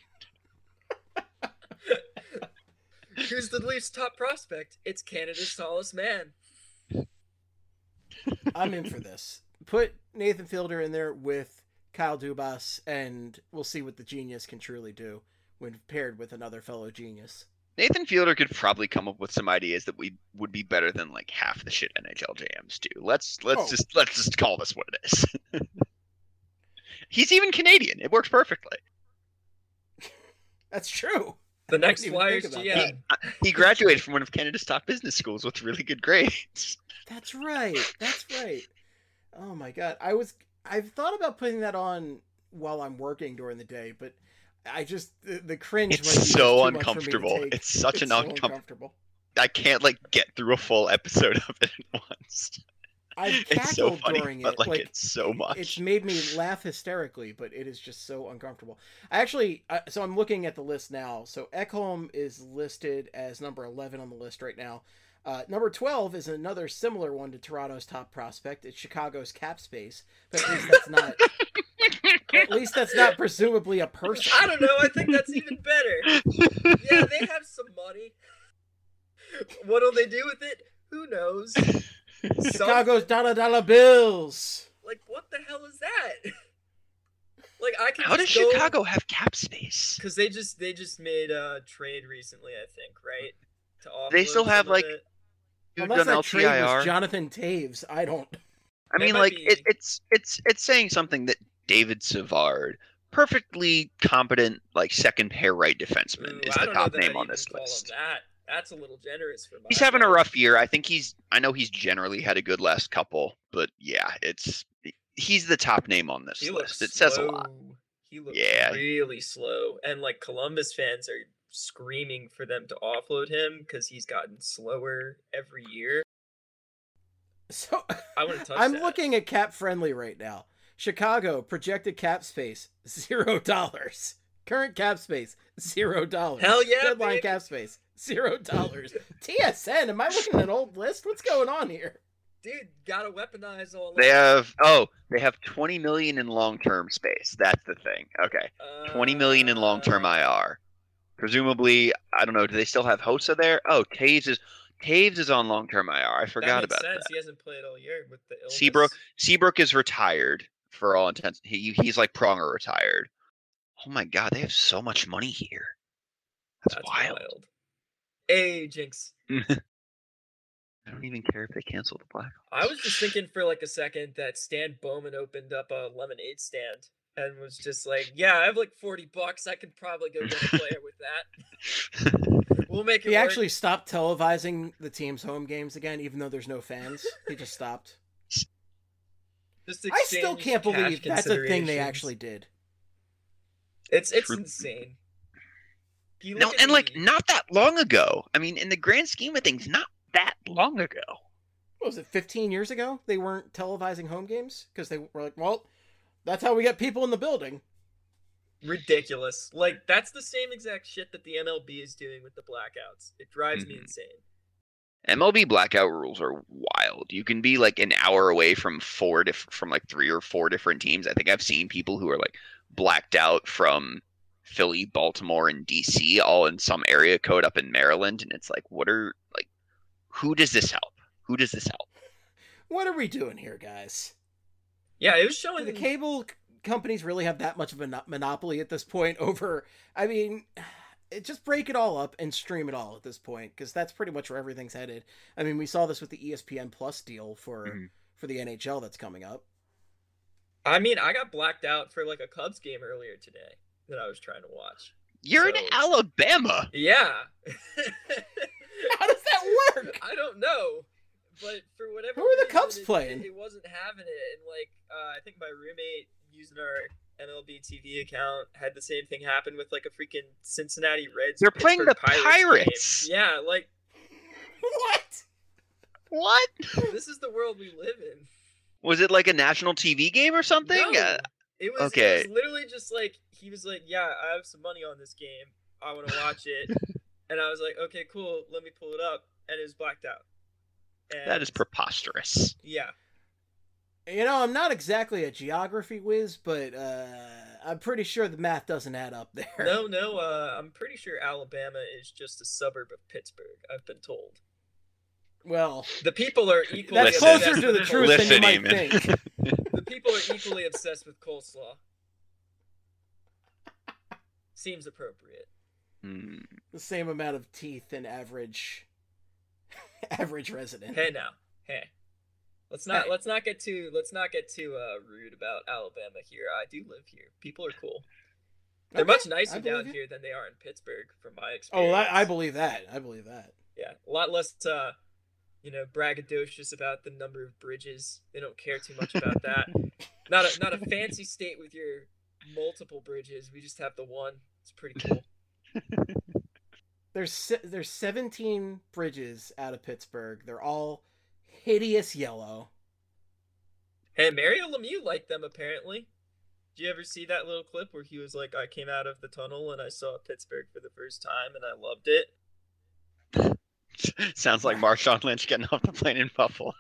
Who's the Leafs' top prospect? It's Canada's tallest man. I'm in for this. Put Nathan Fielder in there with Kyle Dubas, and we'll see what the genius can truly do when paired with another fellow genius. Nathan Fielder could probably come up with some ideas that we would be better than like half the shit N H L J Ms do. Let's let's Oh. just let's just call this what it is. He's even Canadian. It works perfectly. That's true. The next didn't even Flyers think about G that. M. He graduated from one of Canada's top business schools with really good grades. That's right. That's right. Oh my god. I was I've thought about putting that on while I'm working during the day, but I just the, the cringe It's might be just so too much for me to uncomfortable. take. It's such an so uncom- uncomfortable. I can't like get through a full episode of it at once. I've It's so cackled funny, during but it. like, Like, it's so much. It's made me laugh hysterically, but it is just so uncomfortable. I actually, uh, so I'm looking at the list now. So Ekholm is listed as number eleven on the list right now. Uh, number twelve is another similar one to Toronto's top prospect. It's Chicago's cap space, but at least that's not. At least that's not presumably a person. I don't know. I think that's even better. Yeah, they have some money. What'll they do with it? Who knows? Some- Chicago's dollar dollar bills. Like, what the hell is that? Like, I can. How does just go... Chicago have cap space? Because they just they just made a trade recently, I think, right? To offload They still some have of like it. who's Unless done that trade was L T I R. Jonathan Taves, I don't. I They mean, might like be- it, it's it's it's saying something that David Savard, perfectly competent, like second pair right defenseman, Ooh, is I the don't know top that name I'd on even this call him list. That that's a little generous for my. He's having a blood. rough year. I think he's. I know he's generally had a good last couple, but yeah, it's he's the top name on this He list. looks It says a lot. slow. He looks Yeah. really slow, and like Columbus fans are screaming for them to offload him because he's gotten slower every year. So I wouldn't touch I'm that. looking at cap friendly right now. Chicago projected cap space zero dollars. Current cap space zero dollars. Hell yeah, Deadline baby. cap space zero dollars. T S N. Am I looking at an old list? What's going on here? Dude, gotta weaponize all. They of have oh, they have twenty million in long term space. That's the thing. Okay, it. twenty million in long term Uh, I R. Presumably, I don't know. Do they still have Hossa there? Oh, Taves is Taves is on long term I R. I forgot that makes about sense. that. He hasn't played all year with the illness. Seabrook Seabrook is retired for all intents. He he's like Pronger retired. Oh my god, they have so much money here. That's, That's wild. wild. Hey, Jinx. I don't even care if they cancel the Blackhawks. I was just thinking for like a second that Stan Bowman opened up a lemonade stand and was just like, "Yeah, I have like forty bucks. I could probably go get a player with that. We'll make it." He work. actually stopped televising the team's home games again, even though there's no fans. He just stopped. Just I still exchange can't believe cash that's a thing they considerations. actually did. It's it's True. insane. You No, look at and like the- not that long ago. I mean, in the grand scheme of things, not that long ago. What was it, fifteen years ago? They weren't televising home games? Because they were like, well, that's how we get people in the building. ridiculous. Like that's the same exact shit that the M L B is doing with the blackouts. It drives me Mhm. insane. M L B blackout rules are wild. You can be like an hour away from four diff- from like three or four different teams. I think I've seen people who are like blacked out from Philly, Baltimore, and D C all in some area code up in Maryland, and it's like, what are like, who does this help? Who does this help? What are we doing here, guys? Yeah, it was Do showing the cable c- companies really have that much of a no- monopoly at this point over, I mean, it, just break it all up and stream it all at this point, because that's pretty much where everything's headed. I mean, we saw this with the E S P N Plus deal for, Mhm. for the N H L that's coming up. I mean, I got blacked out for like a Cubs game earlier today that I was trying to watch. You're in So- Alabama. Yeah. How does that work? I don't know. But for whatever Who are the reason, Cubs it- playing? It, it wasn't having it. And like, uh, I think my roommate using our M L B T V account had the same thing happen with like a freaking Cincinnati Reds. They're playing Pittsburgh the Pirates Pirates. game. Yeah, like What? What? this is the world we live in. Was it like a national T V game or something? No, Uh, it was. okay. It was literally just like he was like, "Yeah, I have some money on this game. I want to watch it," and I was like, "Okay, cool. Let me pull it up," and it was blacked out. And that is preposterous. yeah. You know, I'm not exactly a geography whiz, but uh, I'm pretty sure the math doesn't add up there. No, no. Uh, I'm pretty sure Alabama is just a suburb of Pittsburgh. I've been told. Well, The people are equally that's Listen. closer obsessed to the with truth coleslaw. than you Listen, might Eamon. think. The people are equally obsessed with coleslaw. Seems appropriate. Hmm. The same amount of teeth in average average resident. Hey now, hey. Let's not Hey. let's not get too let's not get too uh, rude about Alabama here. I do live here. People are cool. They're Okay, much I nicer believe down you. here than they are in Pittsburgh, from my Oh, experience. well, I, I believe that. I believe that. Yeah, a lot less, uh, you know, braggadocious about the number of bridges. They don't care too much about that. Not a not a fancy state with your multiple bridges. We just have the one. It's pretty cool. There's se- there's seventeen bridges out of Pittsburgh. They're all hideous yellow. Hey, Mario Lemieux liked them apparently. Did you ever see that little clip where he was like, "I came out of the tunnel and I saw Pittsburgh for the first time and I loved it." Sounds like Marshawn Lynch getting off the plane in Buffalo.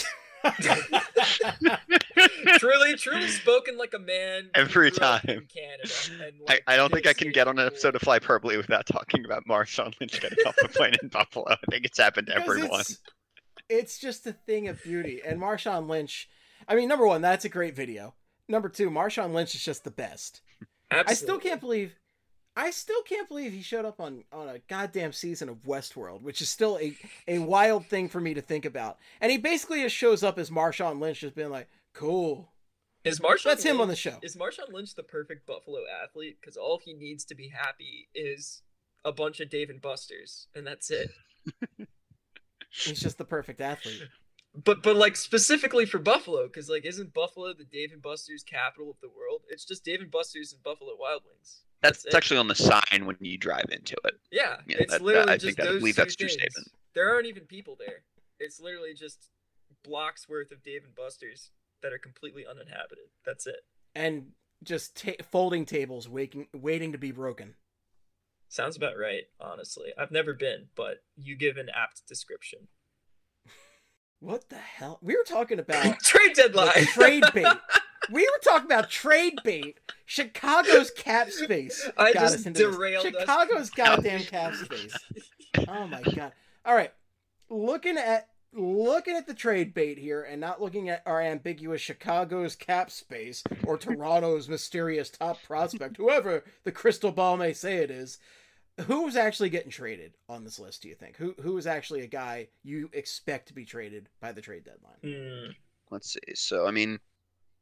truly, truly spoken like a man who Every grew up time. in Canada. And, I, like, I don't think I can negotiated get on an cool- episode of Flyperbole without talking about Marshawn Lynch getting off the plane in Buffalo. I think it's happened to Because everyone. It's, it's just a thing of beauty. And Marshawn Lynch, I mean, number one, that's a great video. Number two, Marshawn Lynch is just the best. I still Absolutely. can't believe, I still can't believe he showed up on, on a goddamn season of Westworld, which is still a, a wild thing for me to think about. And he basically just shows up as Marshawn Lynch, just being like, cool. Is Marshawn That's him on the Lynch- show. Is Marshawn Lynch the perfect Buffalo athlete? Because all he needs to be happy is a bunch of Dave and Busters, and that's it. He's just the perfect athlete. But but like specifically for Buffalo, because like isn't Buffalo the Dave and Busters capital of the world? It's just Dave and Busters and Buffalo Wild Wings. That's, it. it's actually on the sign when you drive into it. Yeah, Yeah, it's that- that- literally I just think that- I those believe two that's a true things. statement. There aren't even people there. It's literally just blocks worth of Dave and Busters that are completely uninhabited. That's it. And just ta- folding tables waiting, waiting to be broken. Sounds about right, honestly. I've never been, but you give an apt description. What the hell? We were talking about Trade deadline. the trade bait. We were talking about trade bait. Chicago's cap space. I got just us into this. derailed us. Chicago's goddamn cap space. Oh my god. All right. Looking at looking at the trade bait here and not looking at our ambiguous Chicago's cap space or Toronto's mysterious top prospect, whoever the crystal ball may say it is. Who's actually getting traded on this list, do you think? Who who is actually a guy you expect to be traded by the trade deadline? Hmm. Let's see. So, I mean,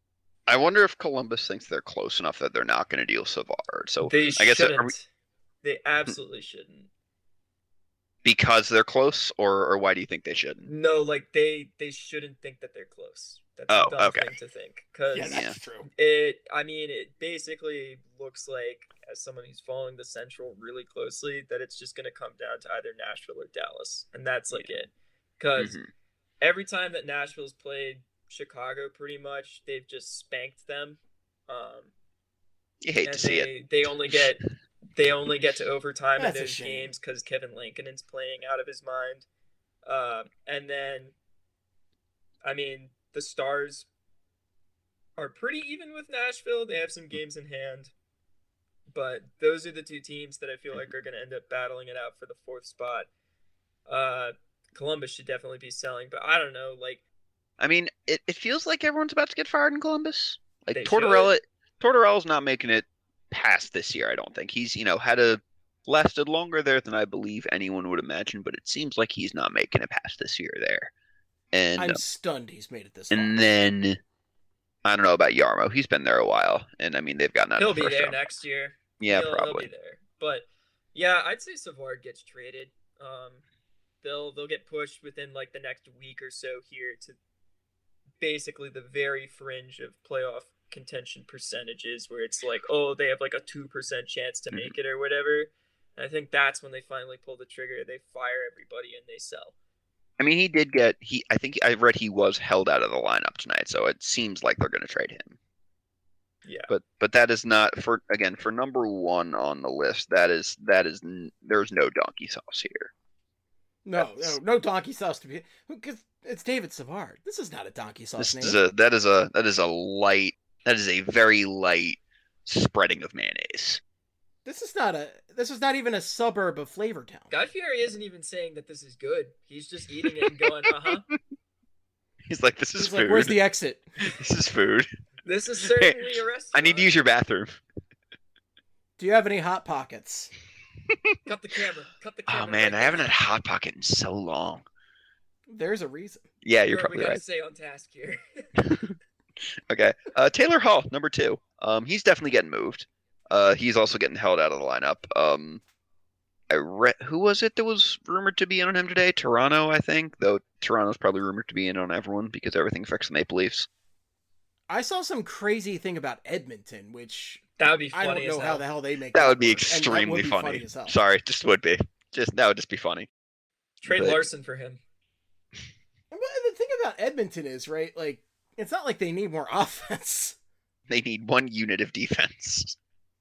I wonder if Columbus thinks they're close enough that they're not going to deal Savard. So They I guess shouldn't. are we, They absolutely shouldn't. because they're close, or or why do you think they shouldn't? No, like they they shouldn't think that they're close. That's Oh, a dumb okay. thing to think. Because Yeah, that's true. it, I mean, it basically looks like, as someone who's following the Central really closely, that it's just going to come down to either Nashville or Dallas, and that's like it. Because Mhm. every time that Nashville's played Chicago, pretty much they've just spanked them. Um, You hate and to see they, it. They only get they only get to overtime in That's a those shame. games because Kevin Lankinen's playing out of his mind. Um, and then, I mean, the Stars are pretty even with Nashville. They have some games in hand, but those are the two teams that I feel like are going to end up battling it out for the fourth spot. Uh, Columbus should definitely be selling, but I don't know, like. I mean, it, it feels like everyone's about to get fired in Columbus. Like They Tortorella, should. Tortorella's not making it past this year. I don't think he's you know had a lasted longer there than I believe anyone would imagine, but it seems like he's not making it past this year there. And I'm stunned he's made it this far. and then I don't know about Yarmo. He's been there a while, and I mean they've gotten out He'll of the be first there round. next year. Yeah, he'll, probably. He'll be there. But yeah, I'd say Savard gets traded. Um, they'll they'll get pushed within like the next week or so here to basically the very fringe of playoff contention percentages, where it's like, oh, they have like a two percent chance to make it or whatever. And I think that's when they finally pull the trigger. They fire everybody and they sell. I mean, he did get he. I think I read he was held out of the lineup tonight, so it seems like they're going to trade him. Yeah. But but that is not for again for number one on the list. That is that is n- there's no donkey sauce here. No, no, no donkey sauce to be because it's David Savard. This is not a donkey sauce This name. is a that is a that is a light that is a very light spreading of mayonnaise. This is not a. This is not even a suburb of Flavortown. Guy Fieri isn't even saying that this is good. He's just eating it and going, uh huh. He's like, this is He's food. like, where's the exit? This is food. This is certainly a restaurant. I need to use your bathroom. Do you have any hot pockets? Cut the camera. Cut the camera. Oh man, right I haven't now. had Hot Pocket in so long. There's a reason. Yeah, you're What probably we gotta right. stay on task here. Okay, uh, Taylor Hall, number two. Um, he's definitely getting moved. Uh, he's also getting held out of the lineup. Um, I read who was it that was rumored to be in on him today? Toronto, I think. Though Toronto's probably rumored to be in on everyone because everything affects the Maple Leafs. I saw some crazy thing about Edmonton, which That would be I funny don't know as how hell. the hell they make That would be work, and that extremely would be funny. as hell. Sorry, just would be. Just that would just be funny. Trade But- Larson for him. But the thing about Edmonton is, right, like, it's not like they need more offense. They need one unit of defense.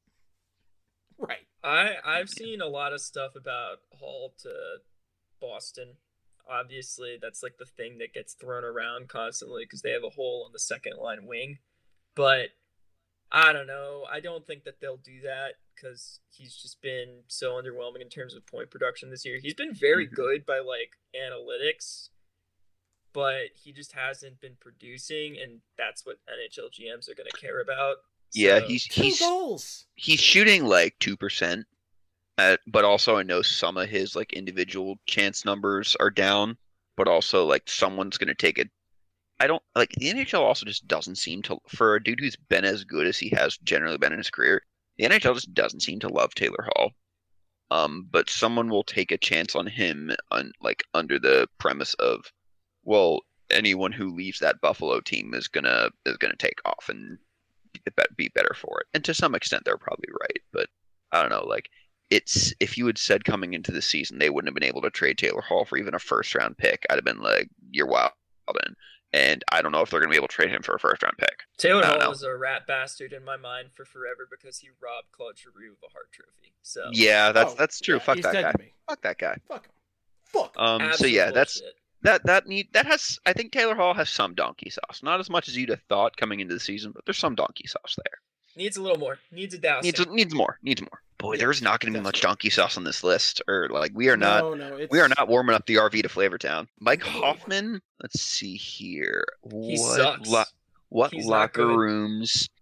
Right. I I've seen a lot of stuff about Hall to Boston. Obviously, that's like the thing that gets thrown around constantly because they have a hole on the second line wing. But I don't know. I don't think that they'll do that because he's just been so underwhelming in terms of point production this year. He's been very Mhm. good by like analytics, but he just hasn't been producing, and that's what N H L G Ms are going to care about. Yeah, So- he's Two he's goals. he's shooting like two percent, but also I know some of his like individual chance numbers are down. But also like someone's gonna take it. I don't like the N H L also just doesn't seem to for a dude who's been as good as he has generally been in his career. The N H L just doesn't seem to love Taylor Hall. Um, but someone will take a chance on him on like under the premise of, well, anyone who leaves that Buffalo team is gonna is gonna take off and be better for it. And to some extent, they're probably right. But I don't know, like it's if you had said coming into the season they wouldn't have been able to trade Taylor Hall for even a first round pick, I'd have been like, you're wild. And I don't know if they're gonna be able to trade him for a first round pick. Taylor I don't Hall know. was a rat bastard in my mind for forever because he robbed Claude Giroux of a Hart Trophy. So Yeah, that's Oh, that's true. yeah, Fuck he's that dead guy. to me. Fuck that guy. Fuck him. Fuck him. Um. So absolute yeah, that's bullshit. that that need that has. I think Taylor Hall has some donkey sauce. Not as much as you'd have thought coming into the season, but there's some donkey sauce there. Needs a little more. Needs a dousing. Needs needs more. Needs more. Boy, Yeah, there's not going to be that's much right. donkey sauce on this list, or like we are not. No, no, it's, We are not warming up the R V to Flavortown. Mike No. Hoffman. Let's see here. He What sucks. lo- what He's not locker good. rooms?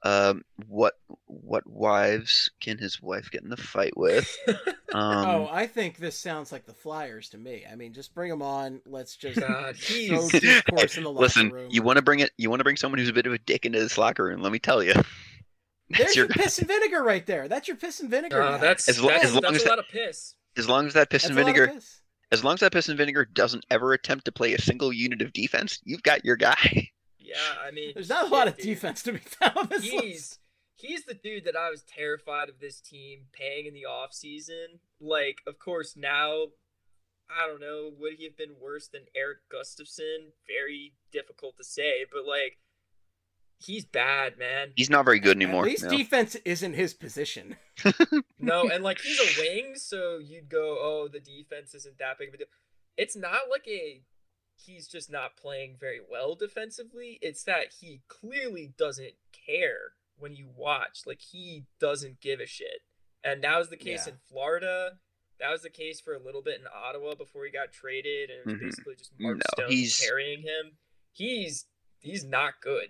Um, what what wives can his wife get in the fight with? Um, oh, I think this sounds like the Flyers to me. I mean, just bring them on. Let's just God, throw he's- discourse in the locker listen, room. you want to bring it? You want to bring someone who's a bit of a dick into this locker room? Let me tell you. There's your your piss and vinegar right there. That's your piss and vinegar. Uh, guy. that's As lo- that's, as long that's as a that- lot of piss. As long as that piss That's and a lot of vinegar, piss. as long as that piss and vinegar doesn't ever attempt to play a single unit of defense, you've got your guy. Yeah, I mean, There's not a shit, lot of dude. defense to be found on this He's list. he's the dude that I was terrified of this team paying in the off season. Like, of course, now I don't know, would he have been worse than Eric Gustafson? Very difficult to say, but like, he's bad, man. He's not very good anymore. At least no. defense isn't his position. No, and like he's a wing, so you'd go, oh, the defense isn't that big of a deal. It's not like a he's just not playing very well defensively. It's that he clearly doesn't care when you watch. Like, he doesn't give a shit. And that was the case Yeah. in Florida. That was the case for a little bit in Ottawa before he got traded, and it was Mhm. basically just Mark No, Stone he's- carrying him. He's he's not good.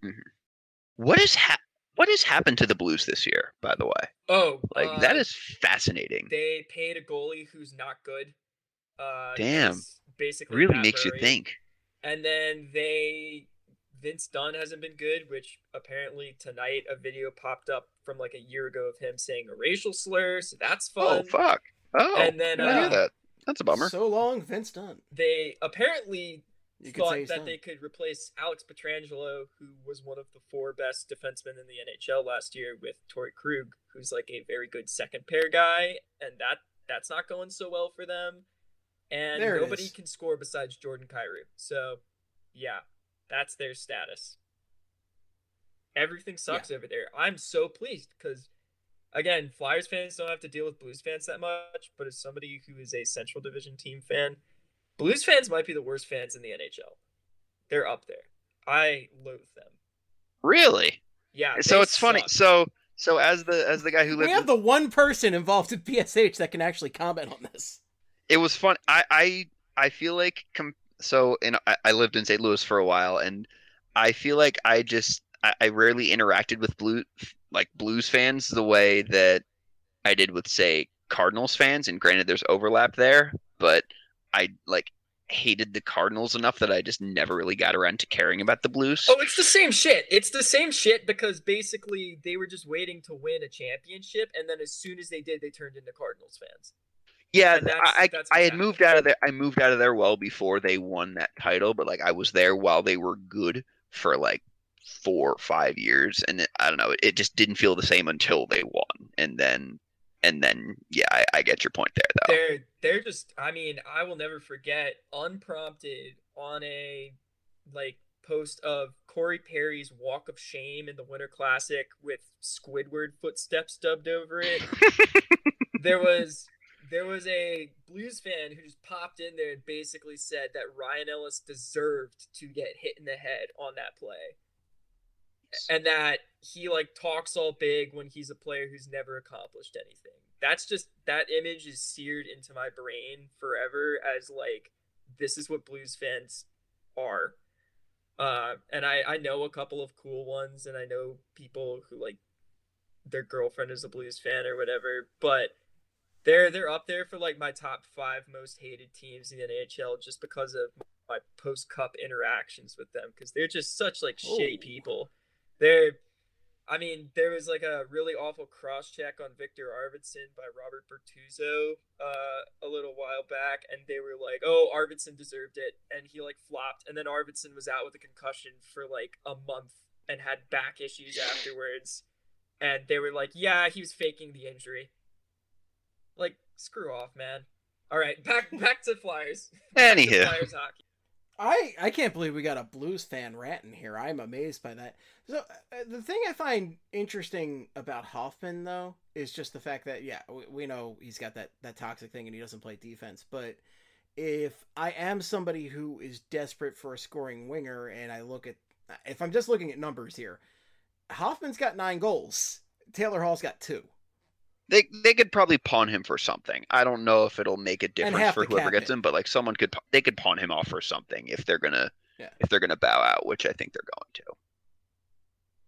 What is ha- what has happened to the Blues this year? By the way, Oh, like uh, that is fascinating. They paid a goalie who's not good. Uh, Damn. that's basically Really Matt makes you Murray. think. And then they, Vince Dunn hasn't been good, which apparently tonight a video popped up from like a year ago of him saying a racial slur, so that's Oh fun. fuck! Oh, And then, I didn't hear uh, that. That's a bummer. So long, Vince Dunn. They apparently You could say thought he's that done. they could replace Alex Pietrangelo, who was one of the four best defensemen in the N H L last year, with Torrey Krug, who's like a very good second pair guy, and that that's not going so well for them. And There it nobody is. can score besides Jordan Kyrou. So, yeah, that's their status. Everything sucks over there. I'm so pleased because, again, Flyers fans don't have to deal with Blues fans that much, but as somebody who is a Central Division team fan, Blues fans might be the worst fans in the N H L. They're up there. I loathe them. Really? Yeah. So they it's funny. suck. So so as the as the guy who We lived, have the one person involved in P S H that can actually comment on this. it was fun. I I I feel like com- so. And I, I lived in Saint Louis for a while, and I feel like I just I, I rarely interacted with blue like Blues fans the way that I did with, say, Cardinals fans. And granted, there's overlap there, but I like hated the Cardinals enough that I just never really got around to caring about the Blues. Oh, it's the same shit. It's the same shit because basically they were just waiting to win a championship, and then as soon as they did, they turned into Cardinals fans. Yeah, And that's- I that's I what had happened. moved out of there. I moved out of there well before they won that title, but like I was there while they were good for like four or five years, and it, I don't know. It, it just didn't feel the same until they won, and then and then yeah, I, I get your point there though. They're they're just. I mean, I will never forget unprompted on a like post of Corey Perry's Walk of Shame in the Winter Classic with Squidward footsteps dubbed over it. there was there was a Blues fan who just popped in there and basically said that Ryan Ellis deserved to get hit in the head on that play. And that he like talks all big when he's a player who's never accomplished anything. That's just, that image is seared into my brain forever as like, this is what Blues fans are. Uh, and I, I know a couple of cool ones, and I know people who like their girlfriend is a Blues fan or whatever, but they're they're up there for like my top five most hated teams in the N H L just because of my post cup interactions with them, because they're just such like shitty Oh. people. They're, I mean, there was like a really awful cross check on Victor Arvidsson by Robert Bertuzzo uh, a little while back, and they were like, "Oh, Arvidsson deserved it," and he like flopped, and then Arvidsson was out with a concussion for like a month and had back issues afterwards, and they were like, "Yeah, he was faking the injury." Like, screw off, man. All right, back back to Flyers. Back to Anywho. Flyers hockey. I, I can't believe we got a Blues fan ranting here. I'm amazed by that. So uh, the thing I find interesting about Hoffman, though, is just the fact that, yeah, we, we know he's got that, that toxic thing and he doesn't play defense. But if I am somebody who is desperate for a scoring winger and I look at, if I'm just looking at numbers here, Hoffman's got nine goals. Taylor Hall's got two. They they could probably pawn him for something. I don't know if it'll make a difference half for the whoever cap gets hit. him, but like someone could they could pawn him off for something if they're gonna Yeah. if they're gonna bow out, which I think they're going to.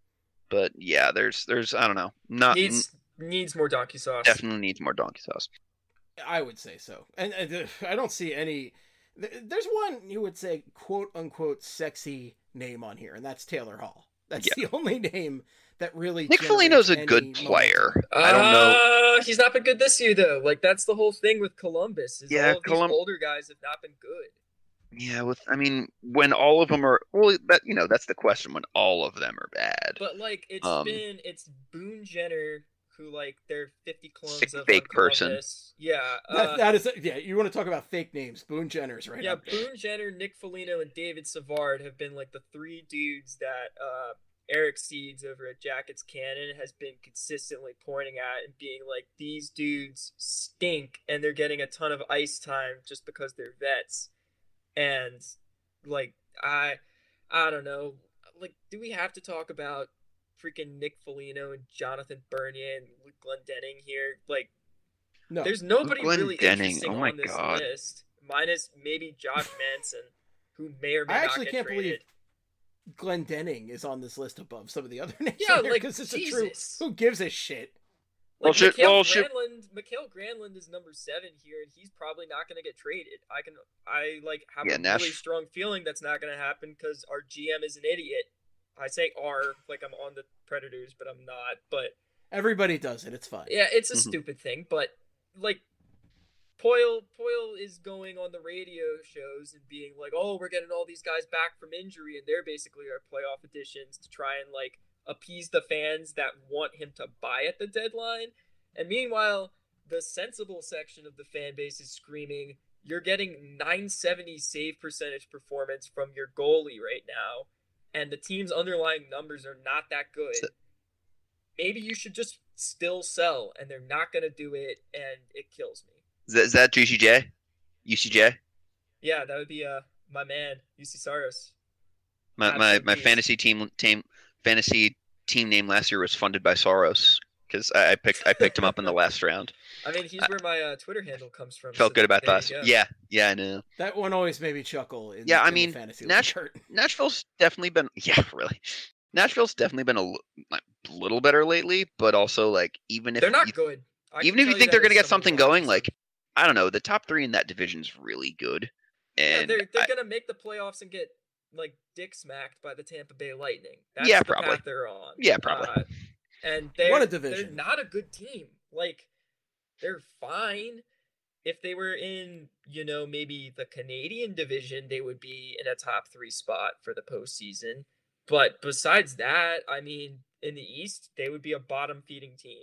But yeah, there's there's I don't know. Not needs needs more donkey sauce. Definitely needs more donkey sauce. I would say so. And, and I don't see any. There's one you would say quote unquote sexy name on here, and that's Taylor Hall. That's Yeah. the only name that really. Nick generates Foligno's a any good player. momentum. I don't know. Uh, he's not been good this year though. Like that's the whole thing with Columbus. Is Yeah, all of Colum- these older guys have not been good. Yeah, with I mean, when all of them are well, that you know that's the question. When all of them are bad, But like it's Um, been it's Boone Jenner who like they're fifty clones Sick of fake on person. Columbus. Yeah. That, Uh, that is, yeah. You want to talk about fake names? Boone Jenner's right yeah, up there. Boone Jenner, Nick Foligno, and David Savard have been like the three dudes that uh, Eric Seeds over at Jackets Cannon has been consistently pointing at and being like, these dudes stink and they're getting a ton of ice time just because they're vets. And like I I don't know. Like, do we have to talk about freaking Nick Foligno and Jonathan Bernier and Luke Glendening here? Like, No, there's nobody Luke really Glendening, interesting oh my on this God. list, minus maybe Josh Manson, who may or may I not actually get can't traded. believe Glendening is on this list above some of the other names. Yeah, on there, like, 'cause it's a Jesus. true. Who gives a shit? Well, Like, shit, Mikhail well, shit. Granlund, Mikhail Granlund is number seven here, and he's probably not going to get traded. I can, I like have Yeah, a Nash- really strong feeling that's not going to happen because our G M is an idiot. I say "our" like I'm on the Predators, but I'm not. But Everybody does it. It's fine. yeah, it's a Mhm. stupid thing. But like, Poyle, Poyle is going on the radio shows and being like, "Oh, we're getting all these guys back from injury, and they're basically our playoff additions to try and like appease the fans that want him to buy at the deadline." And meanwhile, the sensible section of the fan base is screaming, "You're getting nine seventy save percentage performance from your goalie right now, and the team's underlying numbers are not that good. Maybe you should just still sell," and they're not going to do it, and it kills me. Is that, is that G C J? U C J? Yeah, that would be uh my man, U C Saros. My my, Absolute my beast. fantasy team team fantasy team name last year was funded by Soros because I, I picked I picked him up in the last round. I mean, he's where my uh, Twitter handle comes from. Felt so good about there that. you go. Yeah, yeah, I know. That one always made me chuckle. In, Yeah, I in mean, the fantasy Nash- league. Nashville's definitely been yeah, really. Nashville's definitely been a l- like, little better lately, but also like even if They're not you, good. I even can if you tell think that they're gonna as get someone something who watches going, them. like I don't know, the top three in that division's really good, Yeah, and they're they're I- gonna make the playoffs and get like dick smacked by the Tampa Bay Lightning. That's Yeah, the probably. path they're on. Yeah, probably. Uh, and they're What a they're division. not a good team. Like they're fine. If they were in, you know, maybe the Canadian division, they would be in a top three spot for the postseason. But besides that, I mean, in the East, they would be a bottom feeding team.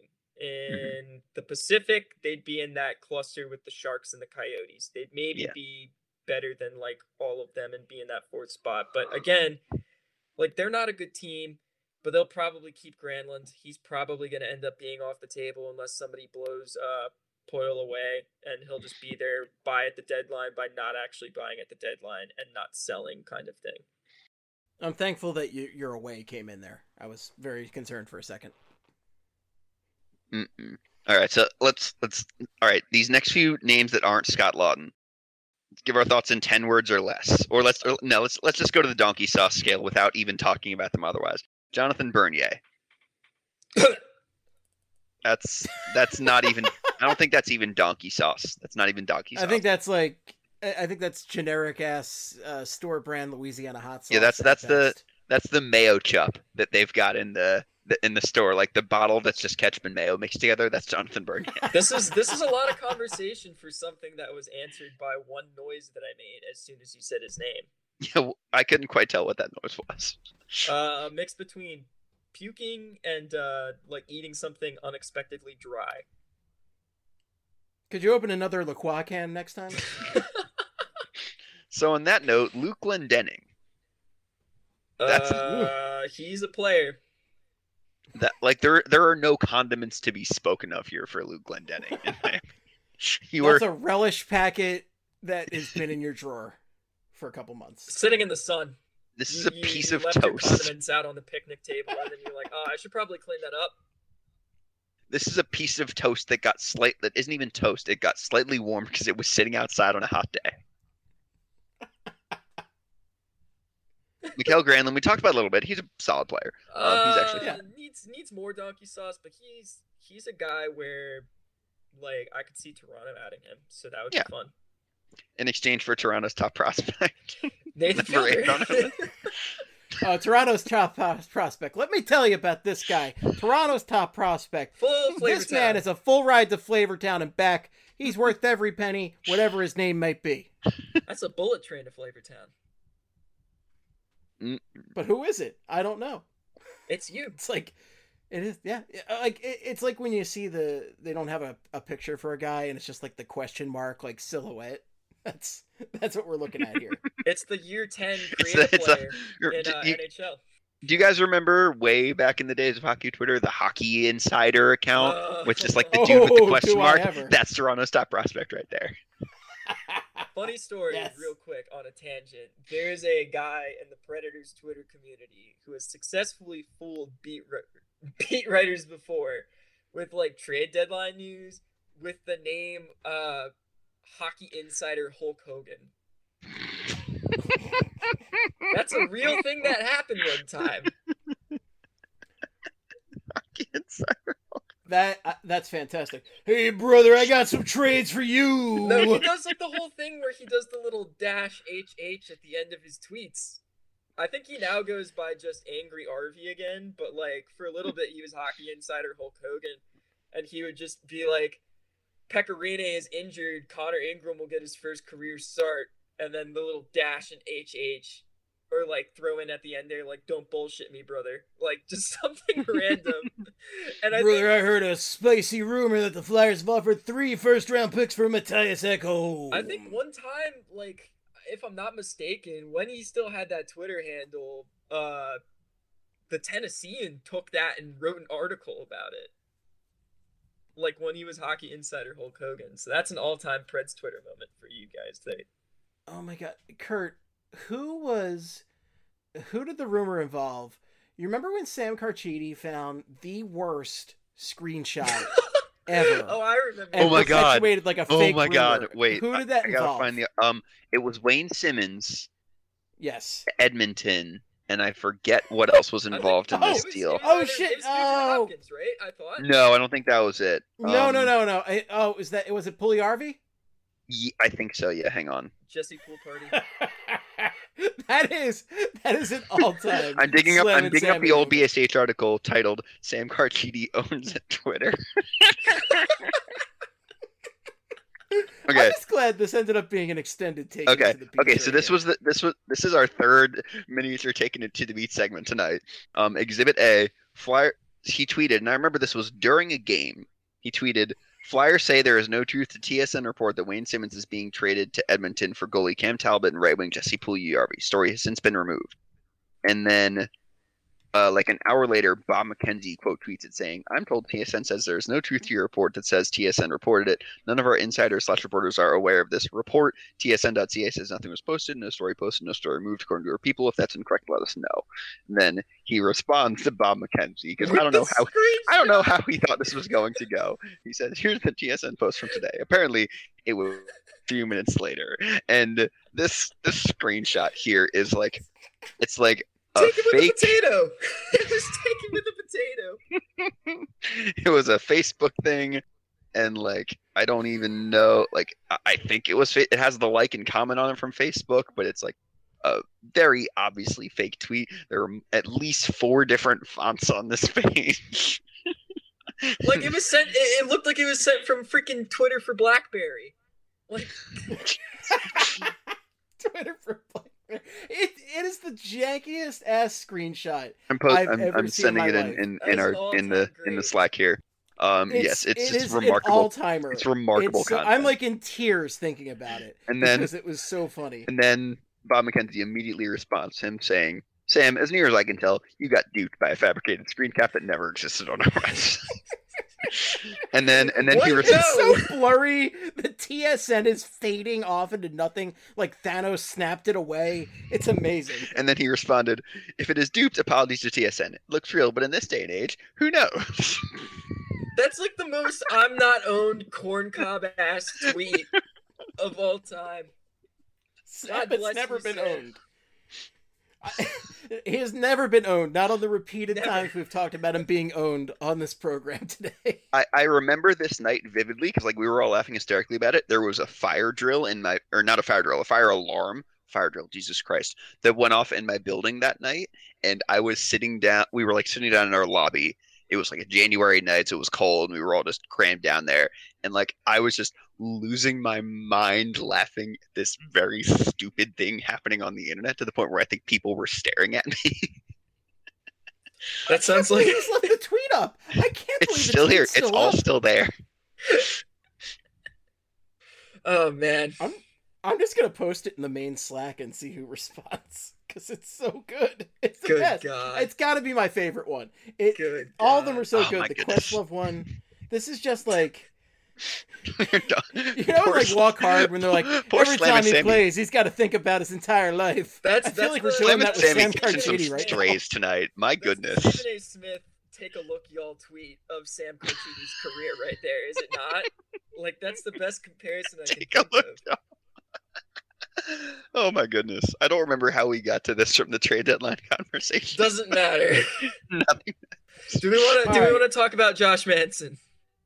In the Pacific, they'd be in that cluster with the Sharks and the Coyotes. They'd maybe Yeah. be better than like all of them and be in that fourth spot. But again, like they're not a good team, but they'll probably keep Granlund. He's probably going to end up being off the table unless somebody blows uh, Poyle away, and he'll just be there, buy at the deadline by not actually buying at the deadline and not selling kind of thing. I'm thankful that you, your away came in there. I was very concerned for a second. Mm-mm. All right, so let's let's all right. These next few names that aren't Scott Lawton, let's give our thoughts in ten words or less, or let's or, no, let's let's just go to the donkey sauce scale without even talking about them otherwise. Jonathan Bernier. That's that's not even. I don't think that's even donkey sauce. That's not even donkey sauce. I think that's like, I I think that's generic ass uh, store brand Louisiana hot sauce. Yeah, that's at that's the best. that's the mayo chup that they've got in the, the in the store, like the bottle that's just ketchup and mayo mixed together. That's Jonathan Bernier. This is this is a lot of conversation for something that was answered by one noise that I made as soon as you said his name. Yeah, I couldn't quite tell what that noise was. Uh, a mix between puking and uh, like eating something unexpectedly dry. Could you open another La Croix can next time? So on that note, Luke Glendening. That's- uh, he's a player. That like there there are no condiments to be spoken of here for Luke Glendening. you were That's a relish packet that has been in your drawer for a couple months. Sitting in the sun. this is You- a you- piece you of left your toast. condiments out on the picnic table, and then you're like, "Oh, I should probably clean that up." This is a piece of toast that got slight that isn't even toast. It got slightly warm because it was sitting outside on a hot day. Mikael Granlund, we talked about a little bit. He's a solid player. Um, he's actually uh, needs needs more donkey sauce, but he's he's a guy where, like, I could see Toronto adding him, so that would Yeah. be fun. in exchange for Toronto's top prospect. Nathan Number eight on Fielder. it. Uh, Toronto's top uh, prospect. Let me tell you about this guy. Toronto's top prospect. Full Flavor This man Town. is a full ride to Flavortown and back. He's worth every penny, whatever his name might be. That's a bullet train to Flavor Town. Mm. But who is it? I don't know. It's you. It's like, it is, yeah. Like it, it's like when you see the they don't have a, a picture for a guy and it's just like the question mark like silhouette. That's that's what we're looking at here. It's the year ten It's creative a- it's a- player you're- in uh, you- N H L. Do you guys remember way back in the days of hockey Twitter, the Hockey Insider account, Uh, which is like the dude with the Oh, question do I mark? ever. That's Toronto's top prospect right there. Funny story, Yes. real quick on a tangent. There's a guy in the Predators Twitter community who has successfully fooled beat ri- beat writers before with like trade deadline news with the name uh, Hockey Insider Hulk Hogan. That's a real thing that happened one time. Hockey Insider. That uh, that's fantastic. Hey brother, I got some trades for you. No, he does like the whole thing where he does the little dash H H at the end of his tweets. I think he now goes by just Angry R V again, but like for a little bit he was Hockey Insider Hulk Hogan, and he would just be like, Pecorine is injured, Connor Ingram will get his first career start, and then the little dash and H H, or like throw in at the end there, like, don't bullshit me, brother. Like, just something random. And I Brother, think, I heard a spicy rumor that the Flyers have offered three first-round picks for Matthias Ekholm. I think one time, like, if I'm not mistaken, when he still had that Twitter handle, uh, the Tennessean took that and wrote an article about it. Like, when he was Hockey Insider Hulk Hogan. So that's an all-time Preds Twitter moment for you guys today. Oh my god, Kurt, who was, who did the rumor involve? You remember when Sam Carchidi found the worst screenshot ever? Oh, I remember. and Oh my God. perpetuated like a Oh fake my God! rumor? Wait, who I- did that I, gotta involve? find the um. It was Wayne Simmons, Yes. Edmonton, and I forget what else was I think- involved in oh, this it was- deal. it was Oh, either- shit, It was Nugent oh. Hopkins, right? I thought. No, I don't think that was it. No, Um, no, no, no. I, oh, is that was it? Pugliarvi? ye- I think so. Yeah, hang on. Jesse Pool Party. that is that is an all-time. I'm digging up. Slam I'm and digging up Sammy the old moment. B S H article titled "Sam Carchidi owns Twitter." I'm Okay. just glad this ended up being an extended take. Okay. into the Beach Okay. So this Radio. was the this was this is our third miniature taking it to the beach segment tonight. Um, Exhibit A. Flyer. He tweeted, and I remember this was during a game. He tweeted, "Flyers say there is no truth to T S N report that Wayne Simmons is being traded to Edmonton for goalie Cam Talbot and right wing Jesse Pugliarvi. Story has since been removed." And then, uh, like an hour later, Bob McKenzie quote tweets it saying, "I'm told T S N says there is no truth to your report that says T S N reported it. None of our insiders slash reporters are aware of this report. T S N dot C A says nothing was posted, no story posted, no story removed according to our people. If that's incorrect, let us know." And then he responds to Bob McKenzie because I don't know how I don't know how he thought this was going to go. He said, "Here's the T S N post from today." Apparently, it was a few minutes later, and this this screenshot here is like, it's like a Take it with fake. a potato. It was taken with a potato. It was a Facebook thing, and like I don't even know. Like I- I think it was. fa- It has the like and comment on it from Facebook, but it's like a very obviously fake tweet. There are at least four different fonts on this page. Like it was sent. It, it looked like it was sent from freaking Twitter for BlackBerry. Like Twitter for Blackberry. It it is the jankiest ass screenshot. I'm post- I've I'm, ever I'm seen in sending my it in life. in, That in is our an in all-time the in the great. Slack here. Um, It's, yes, it's it just is remarkable. An all-timer. It's remarkable It's so- content. I'm like in tears thinking about it. And then- because it was so funny. And then Bob McKenzie immediately responds to him saying, "Sam, as near as I can tell, you got duped by a fabricated screen cap that never existed on our website." and then and then he What? responds. It's so blurry. The T S N is fading off into nothing, like Thanos snapped it away. It's amazing. And then he responded, "If it is duped, apologies to T S N. It looks real, but in this day and age, who knows?" that's like the most I'm not owned corn cob ass tweet of all time. Snap, it's bless never you, been Sam. owned. I, he has never been owned, not on the repeated never. times we've talked about him being owned on this program today. I, I remember this night vividly because like we were all laughing hysterically about it. There was a fire drill in my, or not a fire drill, a fire alarm, fire drill, Jesus Christ, that went off in my building that night. And I was sitting down, we were like sitting down in our lobby. It was like a January night, so it was cold, and we were all just crammed down there. And like I was just losing my mind laughing at this very stupid thing happening on the internet to the point where I think people were staring at me. That sounds like he's left the tweet up. I can't it's believe still here. Still it's all up. still there. Oh man. I'm I'm just gonna post it in the main Slack and see who responds. Because it's so good. It's the good best. God. It's got to be my favorite one. It, good all of them are so oh, good. The goodness. Questlove one. This is just like, You're done. you know, Poor like Slam- Walk Hard when they're like, Poor every Slam time and he Sammy. plays, he's got to think about his entire life. That's I feel that's like the, we're doing Slam that and with Sammy Sam catching some Carchidi right now. strays tonight. My goodness. That's Stephen A. Smith, take a look, y'all tweet of Sam Carchidi's career right there, is it not? Like, that's the best comparison I Take can a think look. of. Oh my goodness. I don't remember how we got to this from the trade deadline conversation. Doesn't matter. Nothing. Do we want to? Do All we right. want to talk about Josh Manson?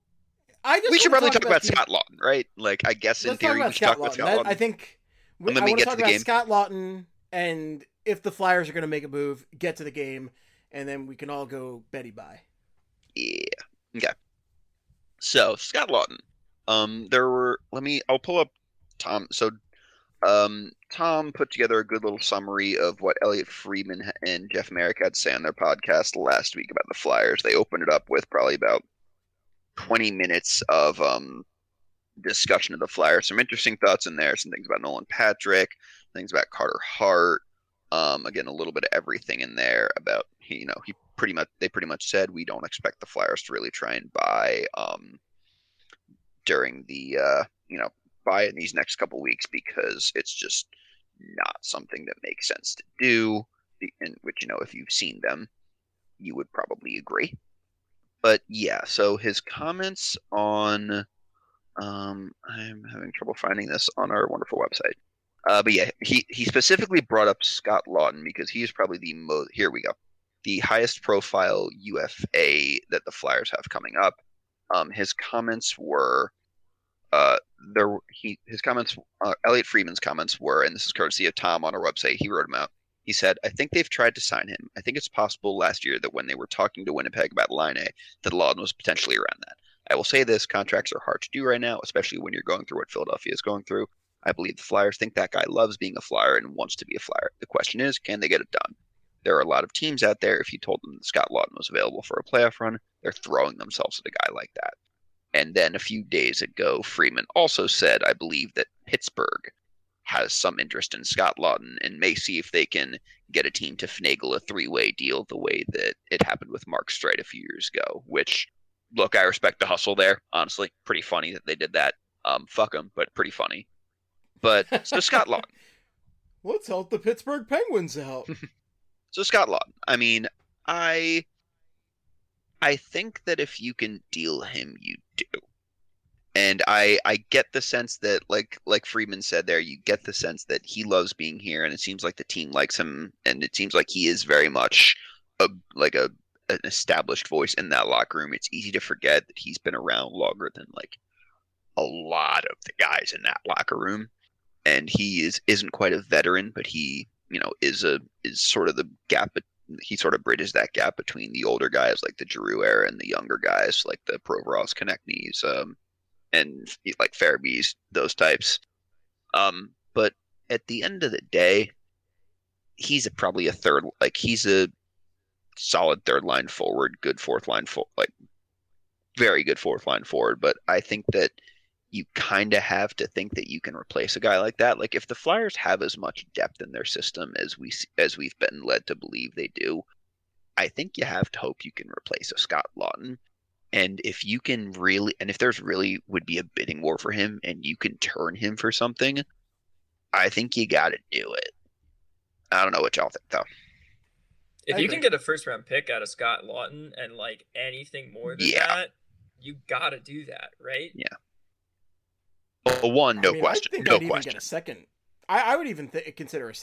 I just We should wanna probably talk about the- Scott Lawton, right? Like, I guess in Let's talk theory we about should talk Scott about Lawton. Scott That- Lawton. I think we, And then I we want to get talk to the about game. Scott Lawton and if the Flyers are going to make a move, get to the game, and then we can all go Betty bye. Yeah. Okay. So Scott Lawton. Um, there were. Let me. I'll pull up Tom. So, um, Tom put together a good little summary of what Elliot Friedman and Jeff Merrick had to say on their podcast last week about the Flyers. They opened it up with probably about twenty minutes of um discussion of the Flyers. Some interesting thoughts in there. Some things about Nolan Patrick. Things about Carter Hart. Um, again, a little bit of everything in there about you know he pretty much they pretty much said we don't expect the Flyers to really try and buy um during the uh you know buy in these next couple weeks because it's just not something that makes sense to do. In which you know if you've seen them, you would probably agree. But yeah, so his comments on um I'm having trouble finding this on our wonderful website. Uh, but yeah, he, he specifically brought up Scott Lawton because he is probably the most, here we go, the highest profile U F A that the Flyers have coming up. Um, his comments were, uh, there he his comments, uh, Elliot Friedman's comments were, and this is courtesy of Tom on our website. He wrote them out. He said, "I think they've tried to sign him. I think it's possible last year that when they were talking to Winnipeg about Laine, that Lawton was potentially around that. I will say this: contracts are hard to do right now, especially when you're going through what Philadelphia is going through. I believe the Flyers think that guy loves being a Flyer and wants to be a Flyer. The question is, can they get it done? There are a lot of teams out there, if you told them that Scott Lawton was available for a playoff run, they're throwing themselves at a guy like that." And then a few days ago, Freeman also said, I believe, that Pittsburgh has some interest in Scott Lawton and may see if they can get a team to finagle a three-way deal the way that it happened with Mark Streit a few years ago, which, look, I respect the hustle there. Honestly, pretty funny that they did that. Um, fuck them, but pretty funny. But so Scott Lawton. Let's help the Pittsburgh Penguins out. So Scott Lawton. I mean, I I think that if you can deal him, you do. And I I get the sense that like like Friedman said there, you get the sense that he loves being here, and it seems like the team likes him, and it seems like he is very much a like a an established voice in that locker room. It's easy to forget that he's been around longer than like a lot of the guys in that locker room. And he is isn't quite a veteran, but he, you know, is a is sort of the gap. He sort of bridges that gap between the older guys like the Giroux era and the younger guys like the Provorovs, Konechny's, um, and like Farabee's, those types. Um, but at the end of the day, he's a, probably a third, like he's a solid third line forward, good fourth line, fo- like very good fourth line forward. But I think that you kind of have to think that you can replace a guy like that. Like if the Flyers have as much depth in their system as we as we've been led to believe they do, I think you have to hope you can replace a Scott Lawton. And if you can really, and if there's really would be a bidding war for him, and you can turn him for something, I think you got to do it. I don't know what y'all think though. If I you agree. can get a first round pick out of Scott Lawton and like anything more than Yeah. that, you got to do that, right? Yeah. Well, one, no I mean, question, I think no I'd even question. get a second. I, I would even th- consider a second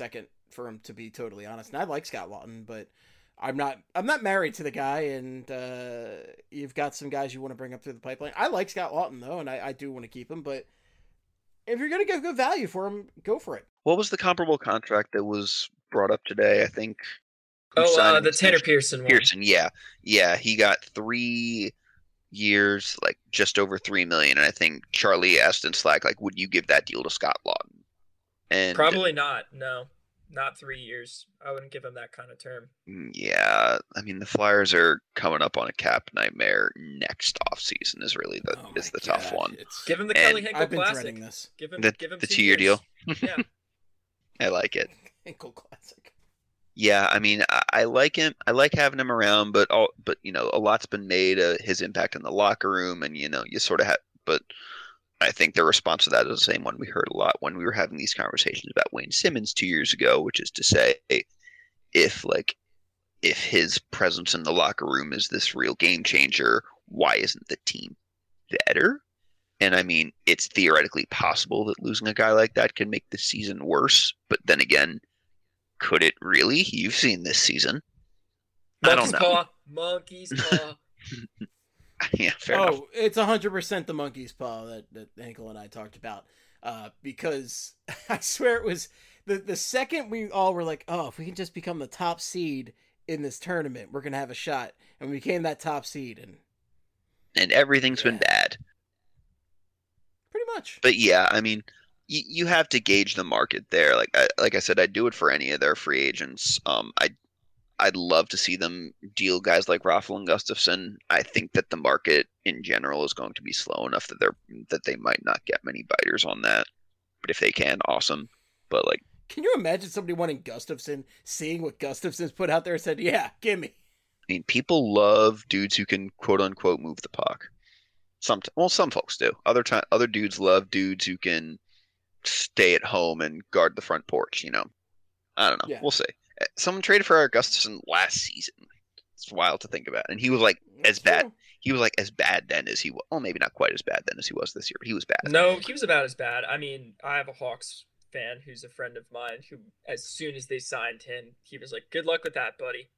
for him, to be totally honest. And I like Scott Laughton, but I'm not I'm not married to the guy, and uh, you've got some guys you want to bring up through the pipeline. I like Scott Laughton, though, and I, I do want to keep him, but if you're going to get good value for him, go for it. What was the comparable contract that was brought up today? I think. Who Oh, signed uh, an the Tanner extension? Pearson one. Pearson, yeah, yeah, he got three years, like just over three million, and I think Charlie asked in Slack, like, would you give that deal to Scott Laughton? And Probably not. No, not three years. I wouldn't give him that kind of term. yeah, I mean the Flyers are coming up on a cap nightmare next offseason is really the Oh is my the tough God, one. it's- Give him the And Kelly Hinkle I've been Classic. dreading this. Give him The- give him the two two-year years. deal? Yeah. I like it. Hinkle Classic. Yeah, I mean, I, I like him. I like having him around, but all, but you know, a lot's been made of his impact in the locker room, and you know, you sort of have. But I think the response to that is the same one we heard a lot when we were having these conversations about Wayne Simmons two years ago, which is to say, if like, if his presence in the locker room is this real game changer, why isn't the team better? And I mean, it's theoretically possible that losing a guy like that can make the season worse, but then again. Could it really? You've seen this season. I don't Monkey's know. paw. Monkey's paw. Yeah, fair oh, enough. it's one hundred percent the monkey's paw that, that Hinkle and I talked about. Uh, because I swear it was the, the second we all were like, oh, if we can just become the top seed in this tournament, we're going to have a shot. And we became that top seed. And And everything's been Yeah. bad. pretty much. But yeah, I mean, you, you have to gauge the market there. Like I, like I said, I'd do it for any of their free agents. Um, I I'd love to see them deal guys like Raffle and Gustafson. I think that the market in general is going to be slow enough that they're that they might not get many biters on that. But if they can, awesome. But like, Can you imagine somebody wanting Gustafson, seeing what Gustafson's put out there and said, yeah, give me. I mean, people love dudes who can quote unquote move the puck. Some well, some folks do. Other time, other dudes love dudes who can stay at home and guard the front porch. You know, I don't know. Yeah. We'll see. Someone traded for Eric Gustafson last season. It's wild to think about, and he was like as That's bad. true. He was like as bad then as he was. Well, maybe not quite as bad then as he was this year, but he was bad. No, he was about as bad. I mean, I have a Hawks fan who's a friend of mine who, as soon as they signed him, he was like, "Good luck with that, buddy."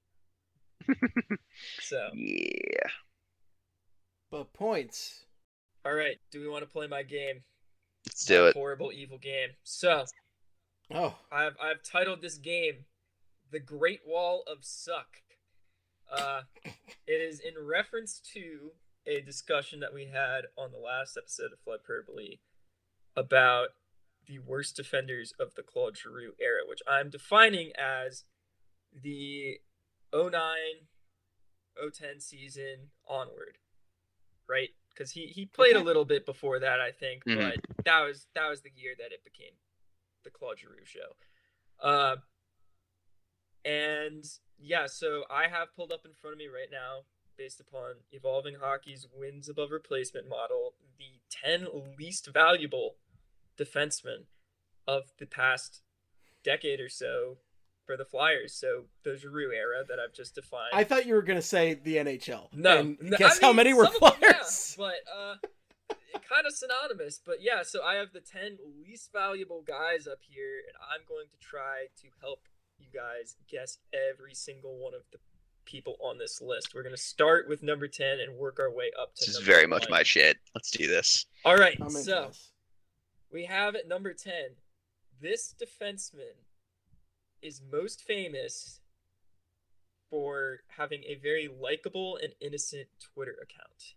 So, Yeah. But points. all right, do we want to play my game? Let's do My it. Horrible, evil game. So, Oh, I've I've titled this game "The Great Wall of Suck." Uh, it is in reference to a discussion that we had on the last episode of Hyperbole about the worst defenders of the Claude Giroux era, which I'm defining as the oh nine oh ten season onward, right? Because he, he played a Okay. little bit before that, I think, Mhm. but that was that was the year that it became the Claude Giroux show. Uh, and yeah, so I have pulled up in front of me right now, based upon Evolving Hockey's wins above replacement model, the ten least valuable defensemen of the past decade or so for the Flyers. So the Giroux era that I've just defined. I thought you were going to say the N H L. No, And no, guess I how mean, many were some of them, yeah, Flyers? but uh, kind of synonymous. But yeah, so I have the ten least valuable guys up here, and I'm going to try to help you guys guess every single one of the people on this list. We're going to start with number ten and work our way up to This is number very much one. my shit. Let's do this. All right, I'm into so this. we have at number ten, this defenseman is most famous for having a very likable and innocent Twitter account.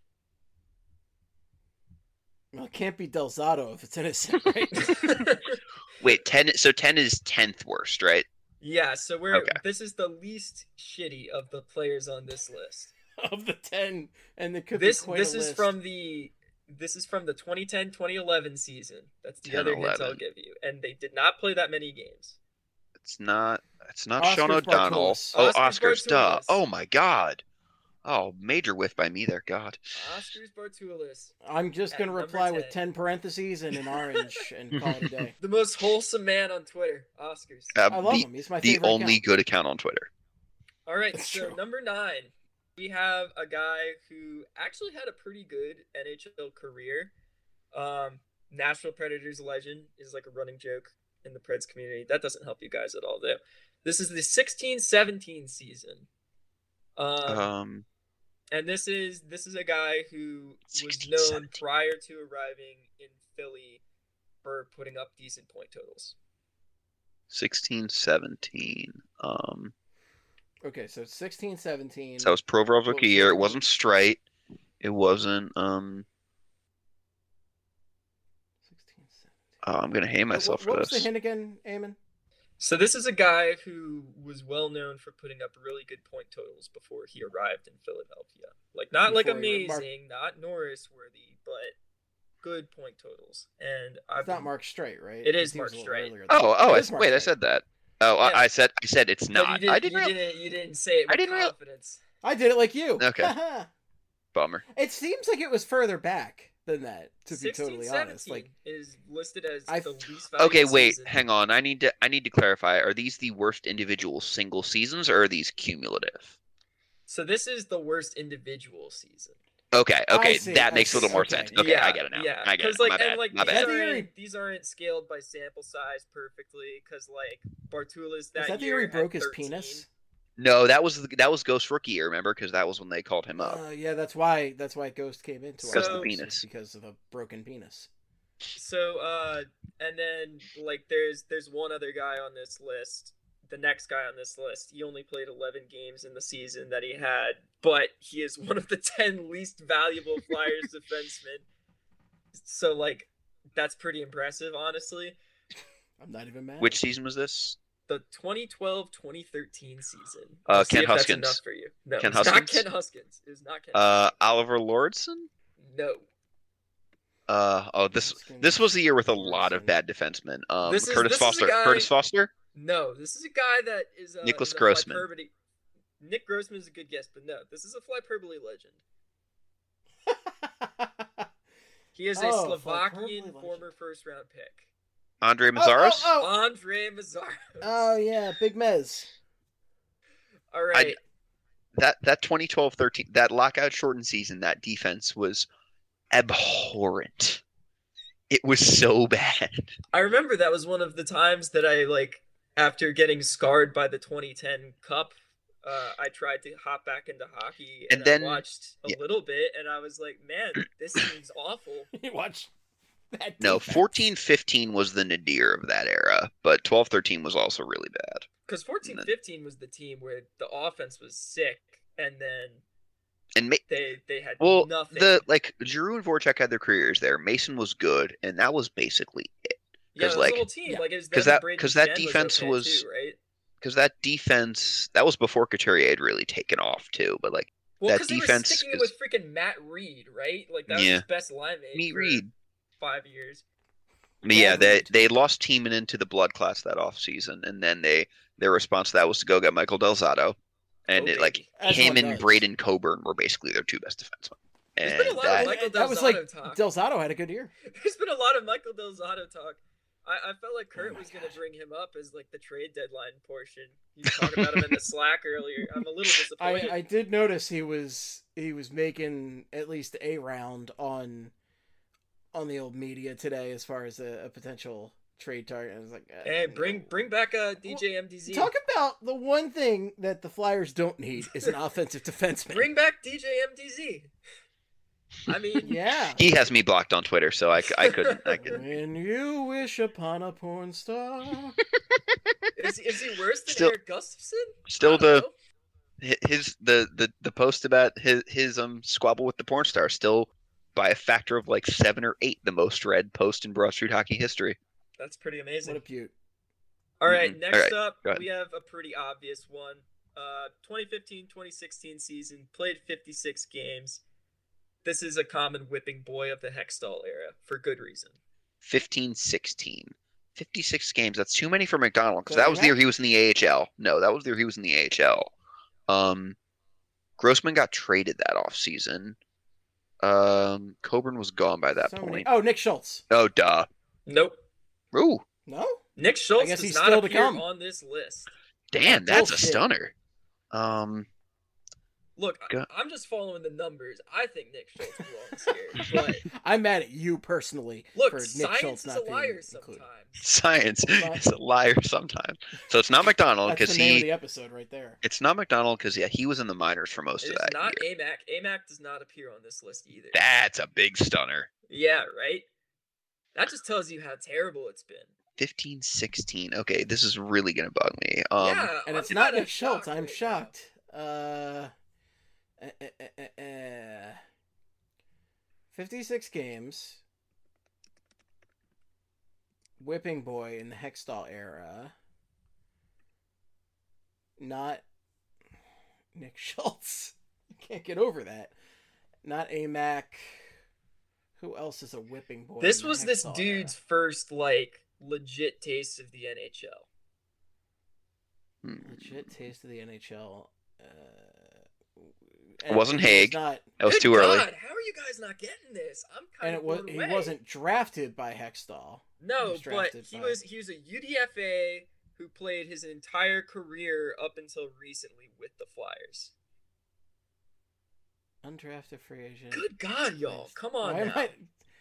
Well, it can't be Del Zotto if it's innocent, right? Wait, ten. So ten is tenth worst, right? Yeah, so we're Okay. this is the least shitty of the players on this list. of the ten, and it could This be quite this a is list. from the this is from the twenty ten twenty eleven season. That's the ten, other hints I'll eleven. give you. And they did not play that many games. It's not. It's not Oscars Sean O'Donnell. Bartulis. Oh, Oscars Oscars, duh. Bartulis. Oh my God. Oh, major whiff by me there. God. Oscars Bartulis, I'm just at going to number reply with ten. ten parentheses and an orange and call it a day. the most wholesome man on Twitter. Oscars. Uh, I love the, him. He's my the favorite only account. good account on Twitter. All right, That's so true. number nine, we have a guy who actually had a pretty good N H L career. Um, Nashville Predators legend is like a running joke in the Preds community. That doesn't help you guys at all, though. This is the sixteen seventeen season. Um, Um, and this is this is a guy who was sixteen known seventeen. prior to arriving in Philly for putting up decent point totals. sixteen seventeen. Um, Okay, so sixteen seventeen. so that was Provorov's What rookie was year. the- It wasn't Strite. It wasn't. Um, sixteen seventeen. oh, I'm gonna hate myself what, what for was the this. hint again, Eamon? So this is a guy who was well known for putting up really good point totals before he arrived in Philadelphia. Like not like Before he- amazing, Mark- not Norris worthy, but good point totals. And I've It's not been- Mark Straight, right? It is He was Mark a little Streit. earlier than Oh, that. oh, It I, is Mark wait, I Streit. said that. Oh, Yeah. I, I said I said it's But not. you didn't, I didn't. you real- didn't you didn't say it with I didn't real- confidence. I did it like you. Okay. Bummer. It seems like it was further back than that, to be sixteen totally honest. seventeen Like, is listed as I- the least valuable Okay, wait, season. hang on. I need to I need to clarify. Are these the worst individual single seasons, or are these cumulative? So this is the worst individual season. Okay, okay, see, that I makes a little see, more okay. sense. Okay, yeah, I get it now. Yeah, I get it. like, My bad. and like My these bad. Is that the year aren't he- these aren't scaled by sample size perfectly because like Bartulis that is that the year year he had broke his thirteen. penis? No, that was the, that was Ghost rookie year. Remember, because that was when they called him up. Uh, yeah, that's why that's why Ghost came into Because our of the lives, penis. was because of a broken penis. So uh, and then like there's there's one other guy on this list. The next guy on this list, he only played eleven games in the season that he had, but he is one of the ten least valuable Flyers defensemen. So like, that's pretty impressive, honestly. I'm not even mad. Which season was this? The twenty twelve twenty thirteen season. Uh, Let's see Ken if that's Huskins. enough for you. No, Ken it's Huskins? not Ken Huskins. It is not Ken. Uh, Oliver Lordson. no. Uh, oh, this Huskins, this was the year with a lot of Lordson. bad defensemen. Um, This is- Curtis this is a Foster. guy- Curtis Foster. No, this is a guy that is uh, Nicholas is a Grossman. Flyperbity- Nick Grossman is a good guess, but no, this is a Flyperbole legend. He is a Oh, Slovakian Flyperbole legend. former first round pick. Andre Oh, Mazaros. oh, oh, Andre Mazzaro. oh, yeah, Big Mez. All right. That that twenty twelve thirteen that lockout shortened season, that defense was abhorrent. It was so bad. I remember that was one of the times that I like after getting scarred by the twenty ten Cup. Uh, I tried to hop back into hockey and, And then- I watched a yeah. little bit, and I was like, "Man, this seems awful." You watch that No, defense. fourteen fifteen was the nadir of that era, but twelve thirteen was also really bad. Because fourteen fifteen was the team where the offense was sick, and then And ma- they they had well, nothing. the like Giroux and Voracek had their careers there. Mason was good, and that was basically it. yeah, it was like- the whole team. yeah. Like it was 'Cause them and that- Braden 'cause that Jen defense okay was- too, right. Because that defense, that was before Couturier had really taken off too. But like Well, that because they were defense sticking it is- with freaking Matt Reed, right? Like that was Yeah. his best line mate. Meat for Reed. Five years. But yeah, Yeah, they Reed. they lost Tiemann into the blood class that off season, and then they their response to that was to go get Michael Delzato, and Oh, it, like baby. As him one and does. Braden Coburn were basically their two best defensemen. There's And been a lot of that, Michael that was like Delzato talk. Delzato had a good year. There's been a lot of Michael Delzato talk. I, I felt like Kurt Oh my was going to gosh. bring him up as like the trade deadline portion. You was talking about him in the Slack earlier. I'm a little disappointed. I, I did notice he was he was making at least a round on on the old media today as far as a, a potential trade target. I was like, uh, Hey, bring no. bring back uh, D J M D Z. Talk about the one thing that the Flyers don't need is an offensive defenseman. Bring back D J M D Z. I mean, Yeah. he has me blocked on Twitter, so I, c- I couldn't. I could. When you wish upon a porn star. is, is he worse than Still- Eric Gustafson? Still I don't the know. his the, the the post about his his um squabble with the porn star still by a factor of like seven or eight the most read post in Broad Street hockey history. That's pretty What amazing. a beaut. All right, Mhm. next All right, up, go ahead. we have a pretty obvious one. Uh, twenty fifteen twenty sixteen season, played fifty-six games. This is a common whipping boy of the Hextall era, for good reason. fifteen sixteen. fifty-six games. That's too many for McDonald because Does that he was the year have- he was in the A H L. No, that was the year he was in the A H L. Um, Grossman got traded that offseason. Um, Coburn was gone by that So many- point. Oh, Nick Schultz. Oh, duh. Nope. Ooh, No? Nick Schultz guess does he's not still to appear come. on this list. damn, that's a Bullshit. stunner. Um, Look, Go- I, I'm just following the numbers. I think Nick Schultz belongs here. But I'm mad at you personally look, for Nick science Schultz is not a being liar included. sometimes. Science But- is a liar sometimes. So it's not McDonald That's because the name of he. the episode right there. It's not McDonald because yeah, he was in the minors for most It of is that not year. A M A C. A M A C does not appear on this list either. That's a big stunner. Yeah, right? That just tells you how terrible it's been. fifteen, sixteen. Okay, this is really gonna bug me. Um, yeah, And I'm it's not kinda Nick Schultz. shocked I'm right now. shocked. Uh, eh, eh, eh, eh, eh. fifty-six games. Whipping Boy in the Hextall era. Not Nick Schultz. Can't get over that. Not A M A C. Who else is a Whipping Boy? This in the was this Hextall dude's era? first, like, legit taste of the N H L. hmm. Legit taste of the N H L. Uh, It wasn't and he was Haig. Not, That was Good too early. God, how are you guys not getting this? I'm and kind it of was blown he away. wasn't drafted by Hextall. No, was but drafted he by- was he was a U D F A who played his entire career up until recently with the Flyers. Undrafted free agent. Good God, y'all! Come on Why am now.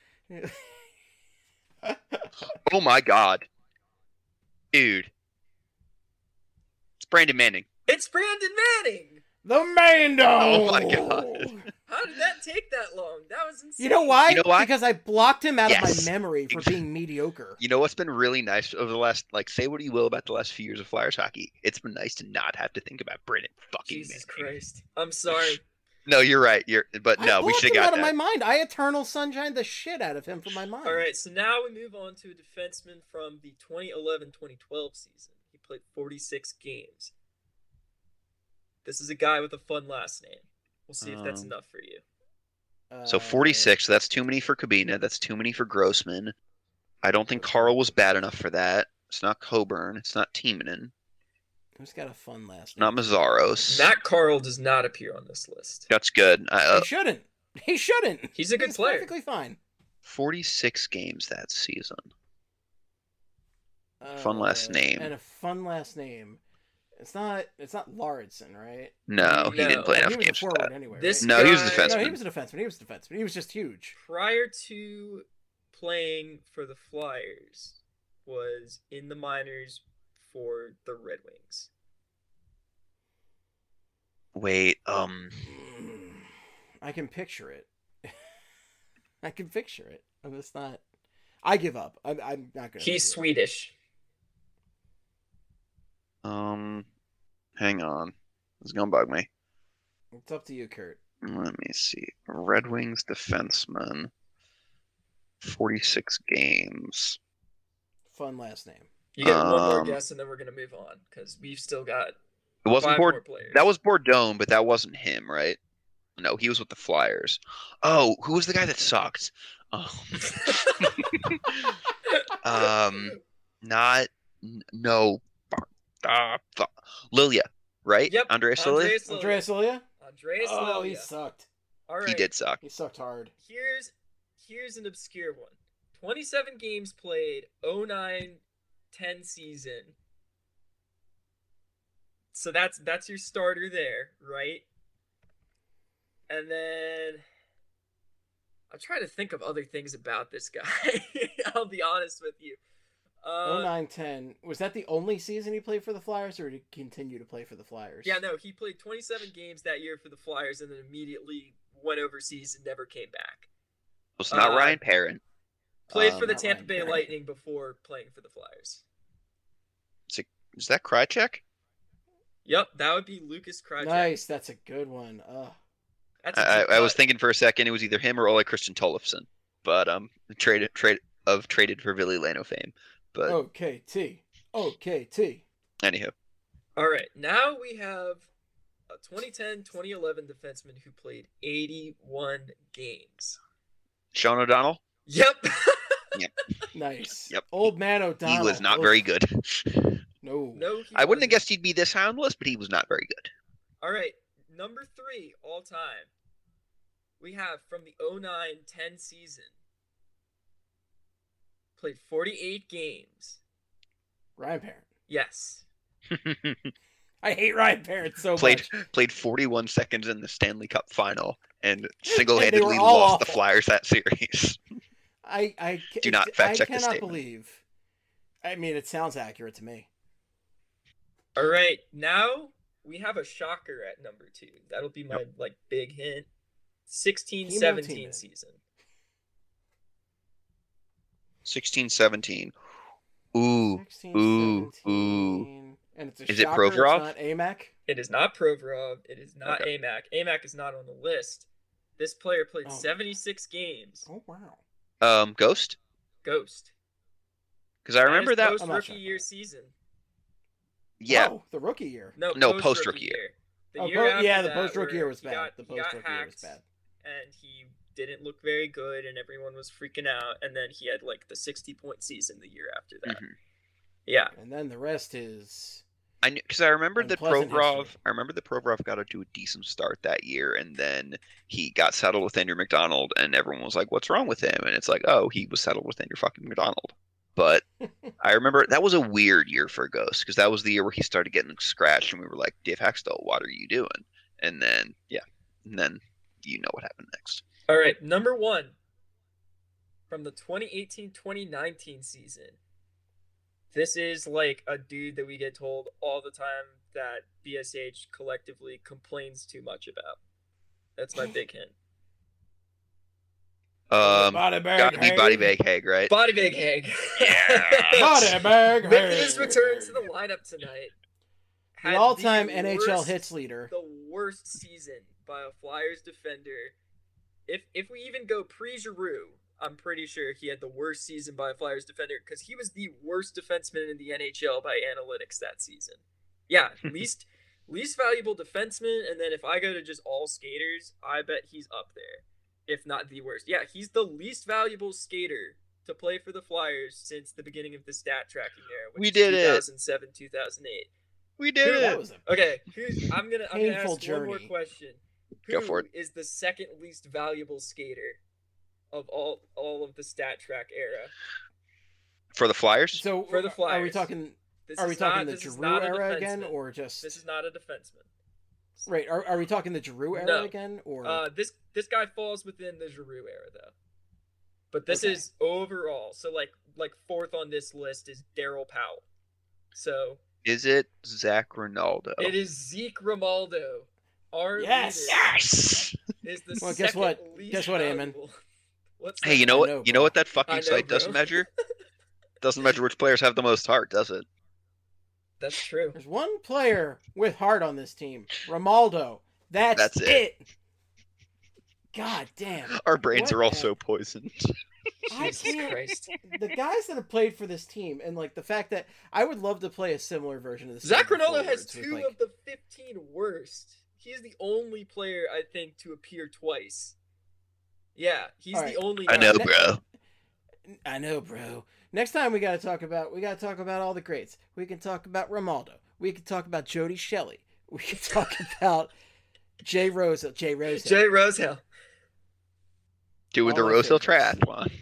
I- Oh my god, dude! It's Brandon Manning. It's Brandon Manning. The Mando! Oh my God. How did that take that long? That was insane. You know why? You know why? Because I blocked him out Yes. of my memory for being mediocre. You know what's been really nice over the last, like, say what you will about the last few years of Flyers hockey. It's been nice to not have to think about Brandon fucking Jesus Manning. Christ! I'm sorry. No, you're right. You're, but I no, we blocked should him have out got of that. my mind. I eternal sunshine the shit out of him from my mind. All right, so now we move on to a defenseman from the twenty eleven twenty twelve season. He played forty-six games. This is a guy with a fun last name. We'll see if that's Um, enough for you. So forty-six. So that's too many for Kabina. That's too many for Grossman. I don't think Carl was bad enough for that. It's not Coburn. It's not Timonen. Who's got a fun last It's not name? Mazzaros. Matt Carl does not appear on this list. That's good. I, uh, He shouldn't. He shouldn't. He's a good He's player. perfectly fine. forty-six games that season. Fun last Uh, name. And a fun last name. It's not. It's not Lauritsen, right? No, he No. didn't play He enough was a games for forward that. anyway. This right? No, he was a guy- defenseman. No, he was a defenseman. He was a defenseman. He was just huge. Prior to playing for the Flyers, was in the minors for the Red Wings. Wait, um, I can picture it. I can picture it. I'm just not. I give up. I'm, I'm not gonna. He's do it. Swedish. um, hang on. It's gonna bug me. It's up to you, Kurt. Let me see. Red Wings defenseman. forty-six games. Fun last name. You get one more Um, guess, and then we're gonna move on because we've still got It wasn't five Bord- more players. That was Bourdon, but that wasn't him, right? No, he was with the Flyers. Oh, who was the guy that sucked? Oh. um, not n- no. Uh, fu- Lilia, right? Yep, Andreas Lilia. Andreas Lilia. Andreas Lilia? Andreas Oh, he Lilia. sucked. All right. He did suck. He sucked hard. Here's here's an obscure one. twenty-seven games played, oh nine ten season. So that's that's your starter there, right? And then I'm trying to think of other things about this guy. I'll be honest with you. Uh, oh nine ten. Was that the only season he played for the Flyers, or did he continue to play for the Flyers? Yeah, no, he played twenty-seven games that year for the Flyers and then immediately went overseas and never came back. It's not Uh, Ryan Perrin. Played Um, for the not Tampa Ryan Bay Perry. Lightning before playing for the Flyers. Is that Krychek? Yep, that would be Lucas Krajcek. Nice. That's a good one. Ugh. That's a I, deep I was cut. thinking for a second it was either him or Ole Christian Tollefson, but um, traded trade of traded for Billy Lano fame. But Oh. Okay, T. Okay, T. anywho, All right, now we have a twenty ten twenty eleven defenseman who played eighty-one games. Sean O'Donnell, Yep. Nice. Yep. Old man O'Donnell. he was not Oof. very good. No. no, he I wouldn't have wasn't. guessed he'd be this high on the list, but he was not very good. All right, number three all time. We have from the oh nine ten season. Played forty-eight games. Ryan Perrin. Yes. I hate Ryan Parrott so played much. played forty-one seconds in the Stanley Cup final and single-handedly all lost awful. the Flyers that series. I I Do not fact check I this cannot statement. believe. I mean, it sounds accurate to me. All right, now we have a shocker at number two. That'll be my Yep. like big hint. sixteen Hemo seventeen Teeman. season. sixteen seventeen. Ooh, sixteen, ooh, seventeen, ooh. And it's a Is it shocker, it's Provorov? not A M A C? It is not Provorov. It is not Okay. A M A C. A M A C is not on the list. This player played Oh. seventy-six games. Oh, wow. Um, Ghost? Ghost. Because I remember that. post I'm not rookie sure. year season. Yeah. Oh, the rookie year. No, No, post post-rookie rookie year. year. The Oh, year po- after yeah, the that post-rookie year where was he bad. got- The he got post-rookie year was hacked, bad. And he didn't look very good, and everyone was freaking out. And then he had like the sixty-point season the year after that. Mhm. Yeah. And then the rest is I because I remembered that Unpleasant Provorov. history. I remember that Provorov got to a decent start that year, and then he got settled with Andrew McDonald, and everyone was like, "What's wrong with him?" And it's like, "Oh, he was settled with Andrew fucking McDonald." But I remember that was a weird year for Ghost because that was the year where he started getting scratched, and we were like, "Dave Haxtell, what are you doing?" And then yeah, and then you know what happened next. All right, number one from the twenty eighteen twenty nineteen season. This is like a dude that we get told all the time that B S H collectively complains too much about. That's my big hint. Um, Body bag got to be Haig. Body Bag Haig, right? Body Bag Haig. Body bag Making Haig. his return to the lineup tonight. The Had all-time the N H L worst- hits leader. The worst season by a Flyers defender. If if we even go pre-Giroux, I'm pretty sure he had the worst season by a Flyers defender because he was the worst defenseman in the N H L by analytics that season. Yeah, least least valuable defenseman, and then if I go to just all skaters, I bet he's up there, if not the worst. Yeah, he's the least valuable skater to play for the Flyers since the beginning of the stat tracking era, which We is did it. two thousand seven, two thousand eight. We did Who- it. That was a Okay, who's, I'm gonna I'm gonna Painful ask one more journey. question. Who Go for it. is the second least valuable skater of all all of the stat track era? For the Flyers? So For the Are we Flyers. talking? This Are we is talking not- the this is Giroux not a era again, defenseman. or just This is not a defenseman. right? Are, are we talking the Giroux era No. again, or Uh, this this guy falls within the Giroux era though. But this Okay. is overall. So like like fourth on this list is Daryl Powell. So Is it Zach Ronaldo? it is Zeke Romaldo. Our Yes! leader Yes. is the Well, guess second what? least Guess what, Eamon? valuable. What's Hey, you that? know I what? know, you know bro. what that I fucking know, site bro. doesn't measure? Doesn't measure which players have the most heart, does it? That's true. there's one player with heart on this team, Romaldo. That's, That's it. it. God damn. Our brains What are all a- so poisoned. I Jesus can't- Christ. The guys that have played for this team, and like the fact that I would love to play a similar version of this. Zach game Ronaldo has forwards with, two like- of the fifteen worst. He's the only player, I think, to appear twice. Yeah, he's All right. the only I know, guy. bro. I know, bro. Next time we got to talk about we got to talk about all the greats. We can talk about Romaldo. We can talk about Jody Shelley. We can talk about Jay Rose. Jay Rose. Jay Rosehill. Doing the All my Rose Hill favorites. Triathlon.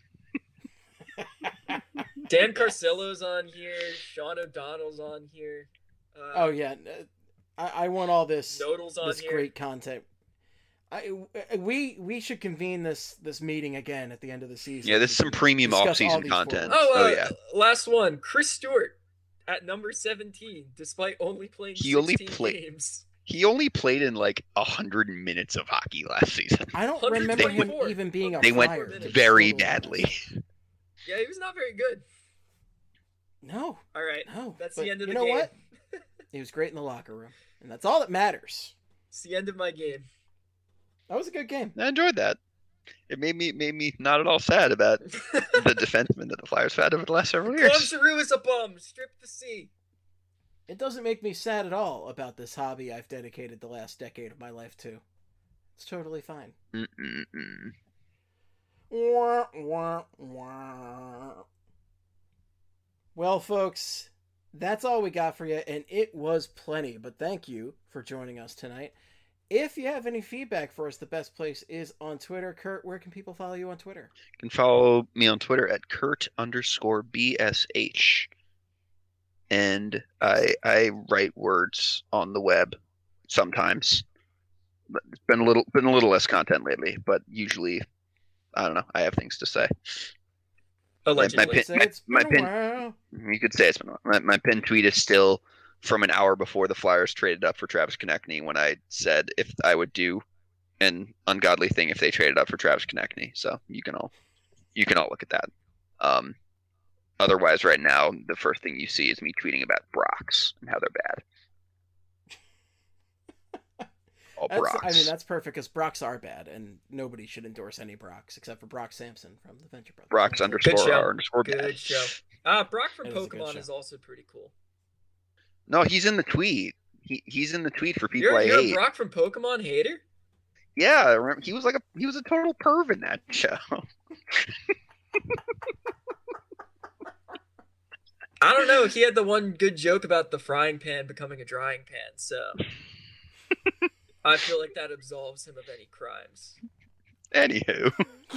Dan Carcillo's on here. Sean O'Donnell's on here. Uh, Oh yeah, I, I want all this Nodal's on this here. great content. I we we should convene this this meeting again at the end of the season. Yeah, this is some premium Discuss all off-season these content. forwards. Oh, uh, Oh, yeah. last one. Chris Stewart at number seventeen, despite only playing He only sixteen played- games. He only played in like a hundred minutes of hockey last season. I don't one remember him twenty-four. even being a They went Flyer, to be very totally badly. honest. Yeah, he was not very good. No, All right, no. that's but the end of you the know game. what? He was great in the locker room, and that's all that matters. It's the end of my game. That was a good game. I enjoyed that. It made me made me not at all sad about the defenseman that the Flyers have had over the last several Claude years. Giroux is a bum. Strip the C. It doesn't make me sad at all about this hobby I've dedicated the last decade of my life to. It's totally fine. Mm-mm-mm. Wah, wah, wah. Well, folks, that's all we got for you, and it was plenty, but thank you for joining us tonight. If you have any feedback for us, the best place is on Twitter. Kurt, where can people follow you on Twitter? You can follow me on Twitter at Kurt underscore B S H. and I I write words on the web sometimes. But it's been a little been a little less content lately, but usually, I don't know. I have things to say. Allegedly. My, my pin, my, my pin you could say it's been a while. My, my pin tweet is still from an hour before the Flyers traded up for Travis Konechny, when I said if I would do an ungodly thing if they traded up for Travis Konechny. So you can all you can all look at that. Um, otherwise, right now, the first thing you see is me tweeting about Brox and how they're bad. All That's, Brox. I mean, that's perfect because Brox are bad, and nobody should endorse any Brox except for Brock Sampson from the Venture Brothers. Brox underscore Good show. R underscore Good bad. show. Uh, Brock from It is a good Pokemon show. is also pretty cool. No, he's in the tweet. He he's in the tweet for people You're, I you're hate. a Brock from Pokemon hater? Yeah, I remember, he was like a he was a total perv in that show. I don't know. He had the one good joke about the frying pan becoming a drying pan, so I feel like that absolves him of any crimes. Anywho,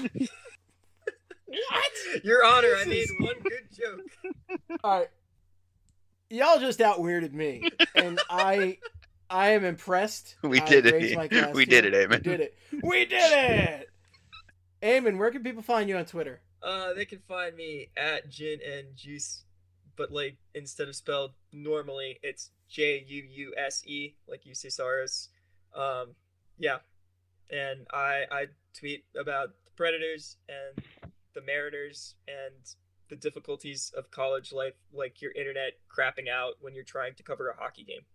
What? Your Honor, I made one good joke. All right, y'all just out weirded me, and I, I am impressed. We I did it. raised my glass We to did you. it, Eamon. We did it. We did it. Eamon, where can people find you on Twitter? Uh, they can find me at Gin and Juice, but like instead of spelled normally, it's J U U S E, like Ucisaurus. Um, yeah, and I I tweet about the Predators and the Mariners and the difficulties of college life, like your internet crapping out when you're trying to cover a hockey game.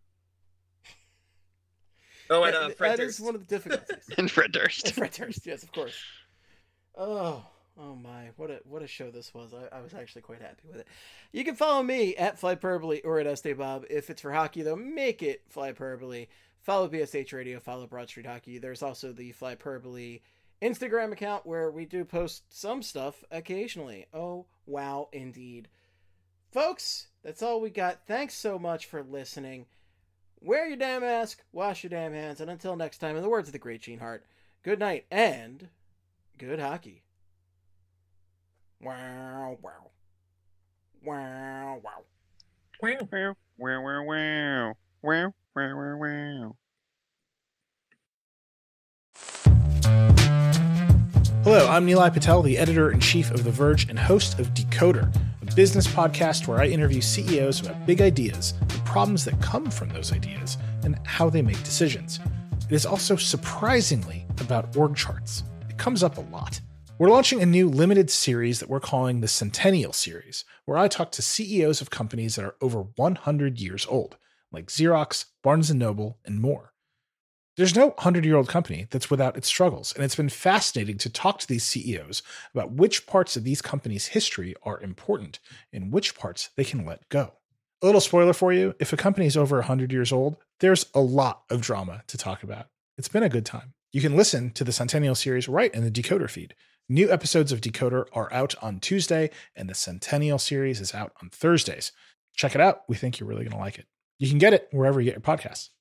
Oh, and uh, that, Fred that is Durst. one of the difficulties. and Fred Durst. And Fred Durst, yes, of course. Oh, oh my! What a what a show this was. I, I was actually quite happy with it. You can follow me at Flyperbole or at Estebob. If it's for hockey, though, make it Flyperbole. Follow B S H Radio. Follow Broad Street Hockey. There's also the Flyperbole Instagram account where we do post some stuff occasionally. Oh wow, indeed, folks. That's all we got. Thanks so much for listening. Wear your damn mask, wash your damn hands, and until next time, in the words of the great Gene Hart, good night and good hockey. Wow, wow. Wow, wow. Wow, wow, wow, wow, wow, wow, wow, wow, wow. Hello, I'm Nilay Patel, the editor-in-chief of The Verge and host of Decoder, a business podcast where I interview C E Os about big ideas, the problems that come from those ideas, and how they make decisions. It is also surprisingly about org charts. It comes up a lot. We're launching a new limited series that we're calling the Centennial Series, where I talk to C E Os of companies that are over one hundred years old, like Xerox, Barnes and Noble, and more. There's no hundred-year-old company that's without its struggles, and it's been fascinating to talk to these C E Os about which parts of these companies' history are important and which parts they can let go. A little spoiler for you, if a company is over one hundred years old, there's a lot of drama to talk about. It's been a good time. You can listen to the Centennial Series right in the Decoder feed. New episodes of Decoder are out on Tuesday, and the Centennial Series is out on Thursdays. Check it out. We think you're really going to like it. You can get it wherever you get your podcasts.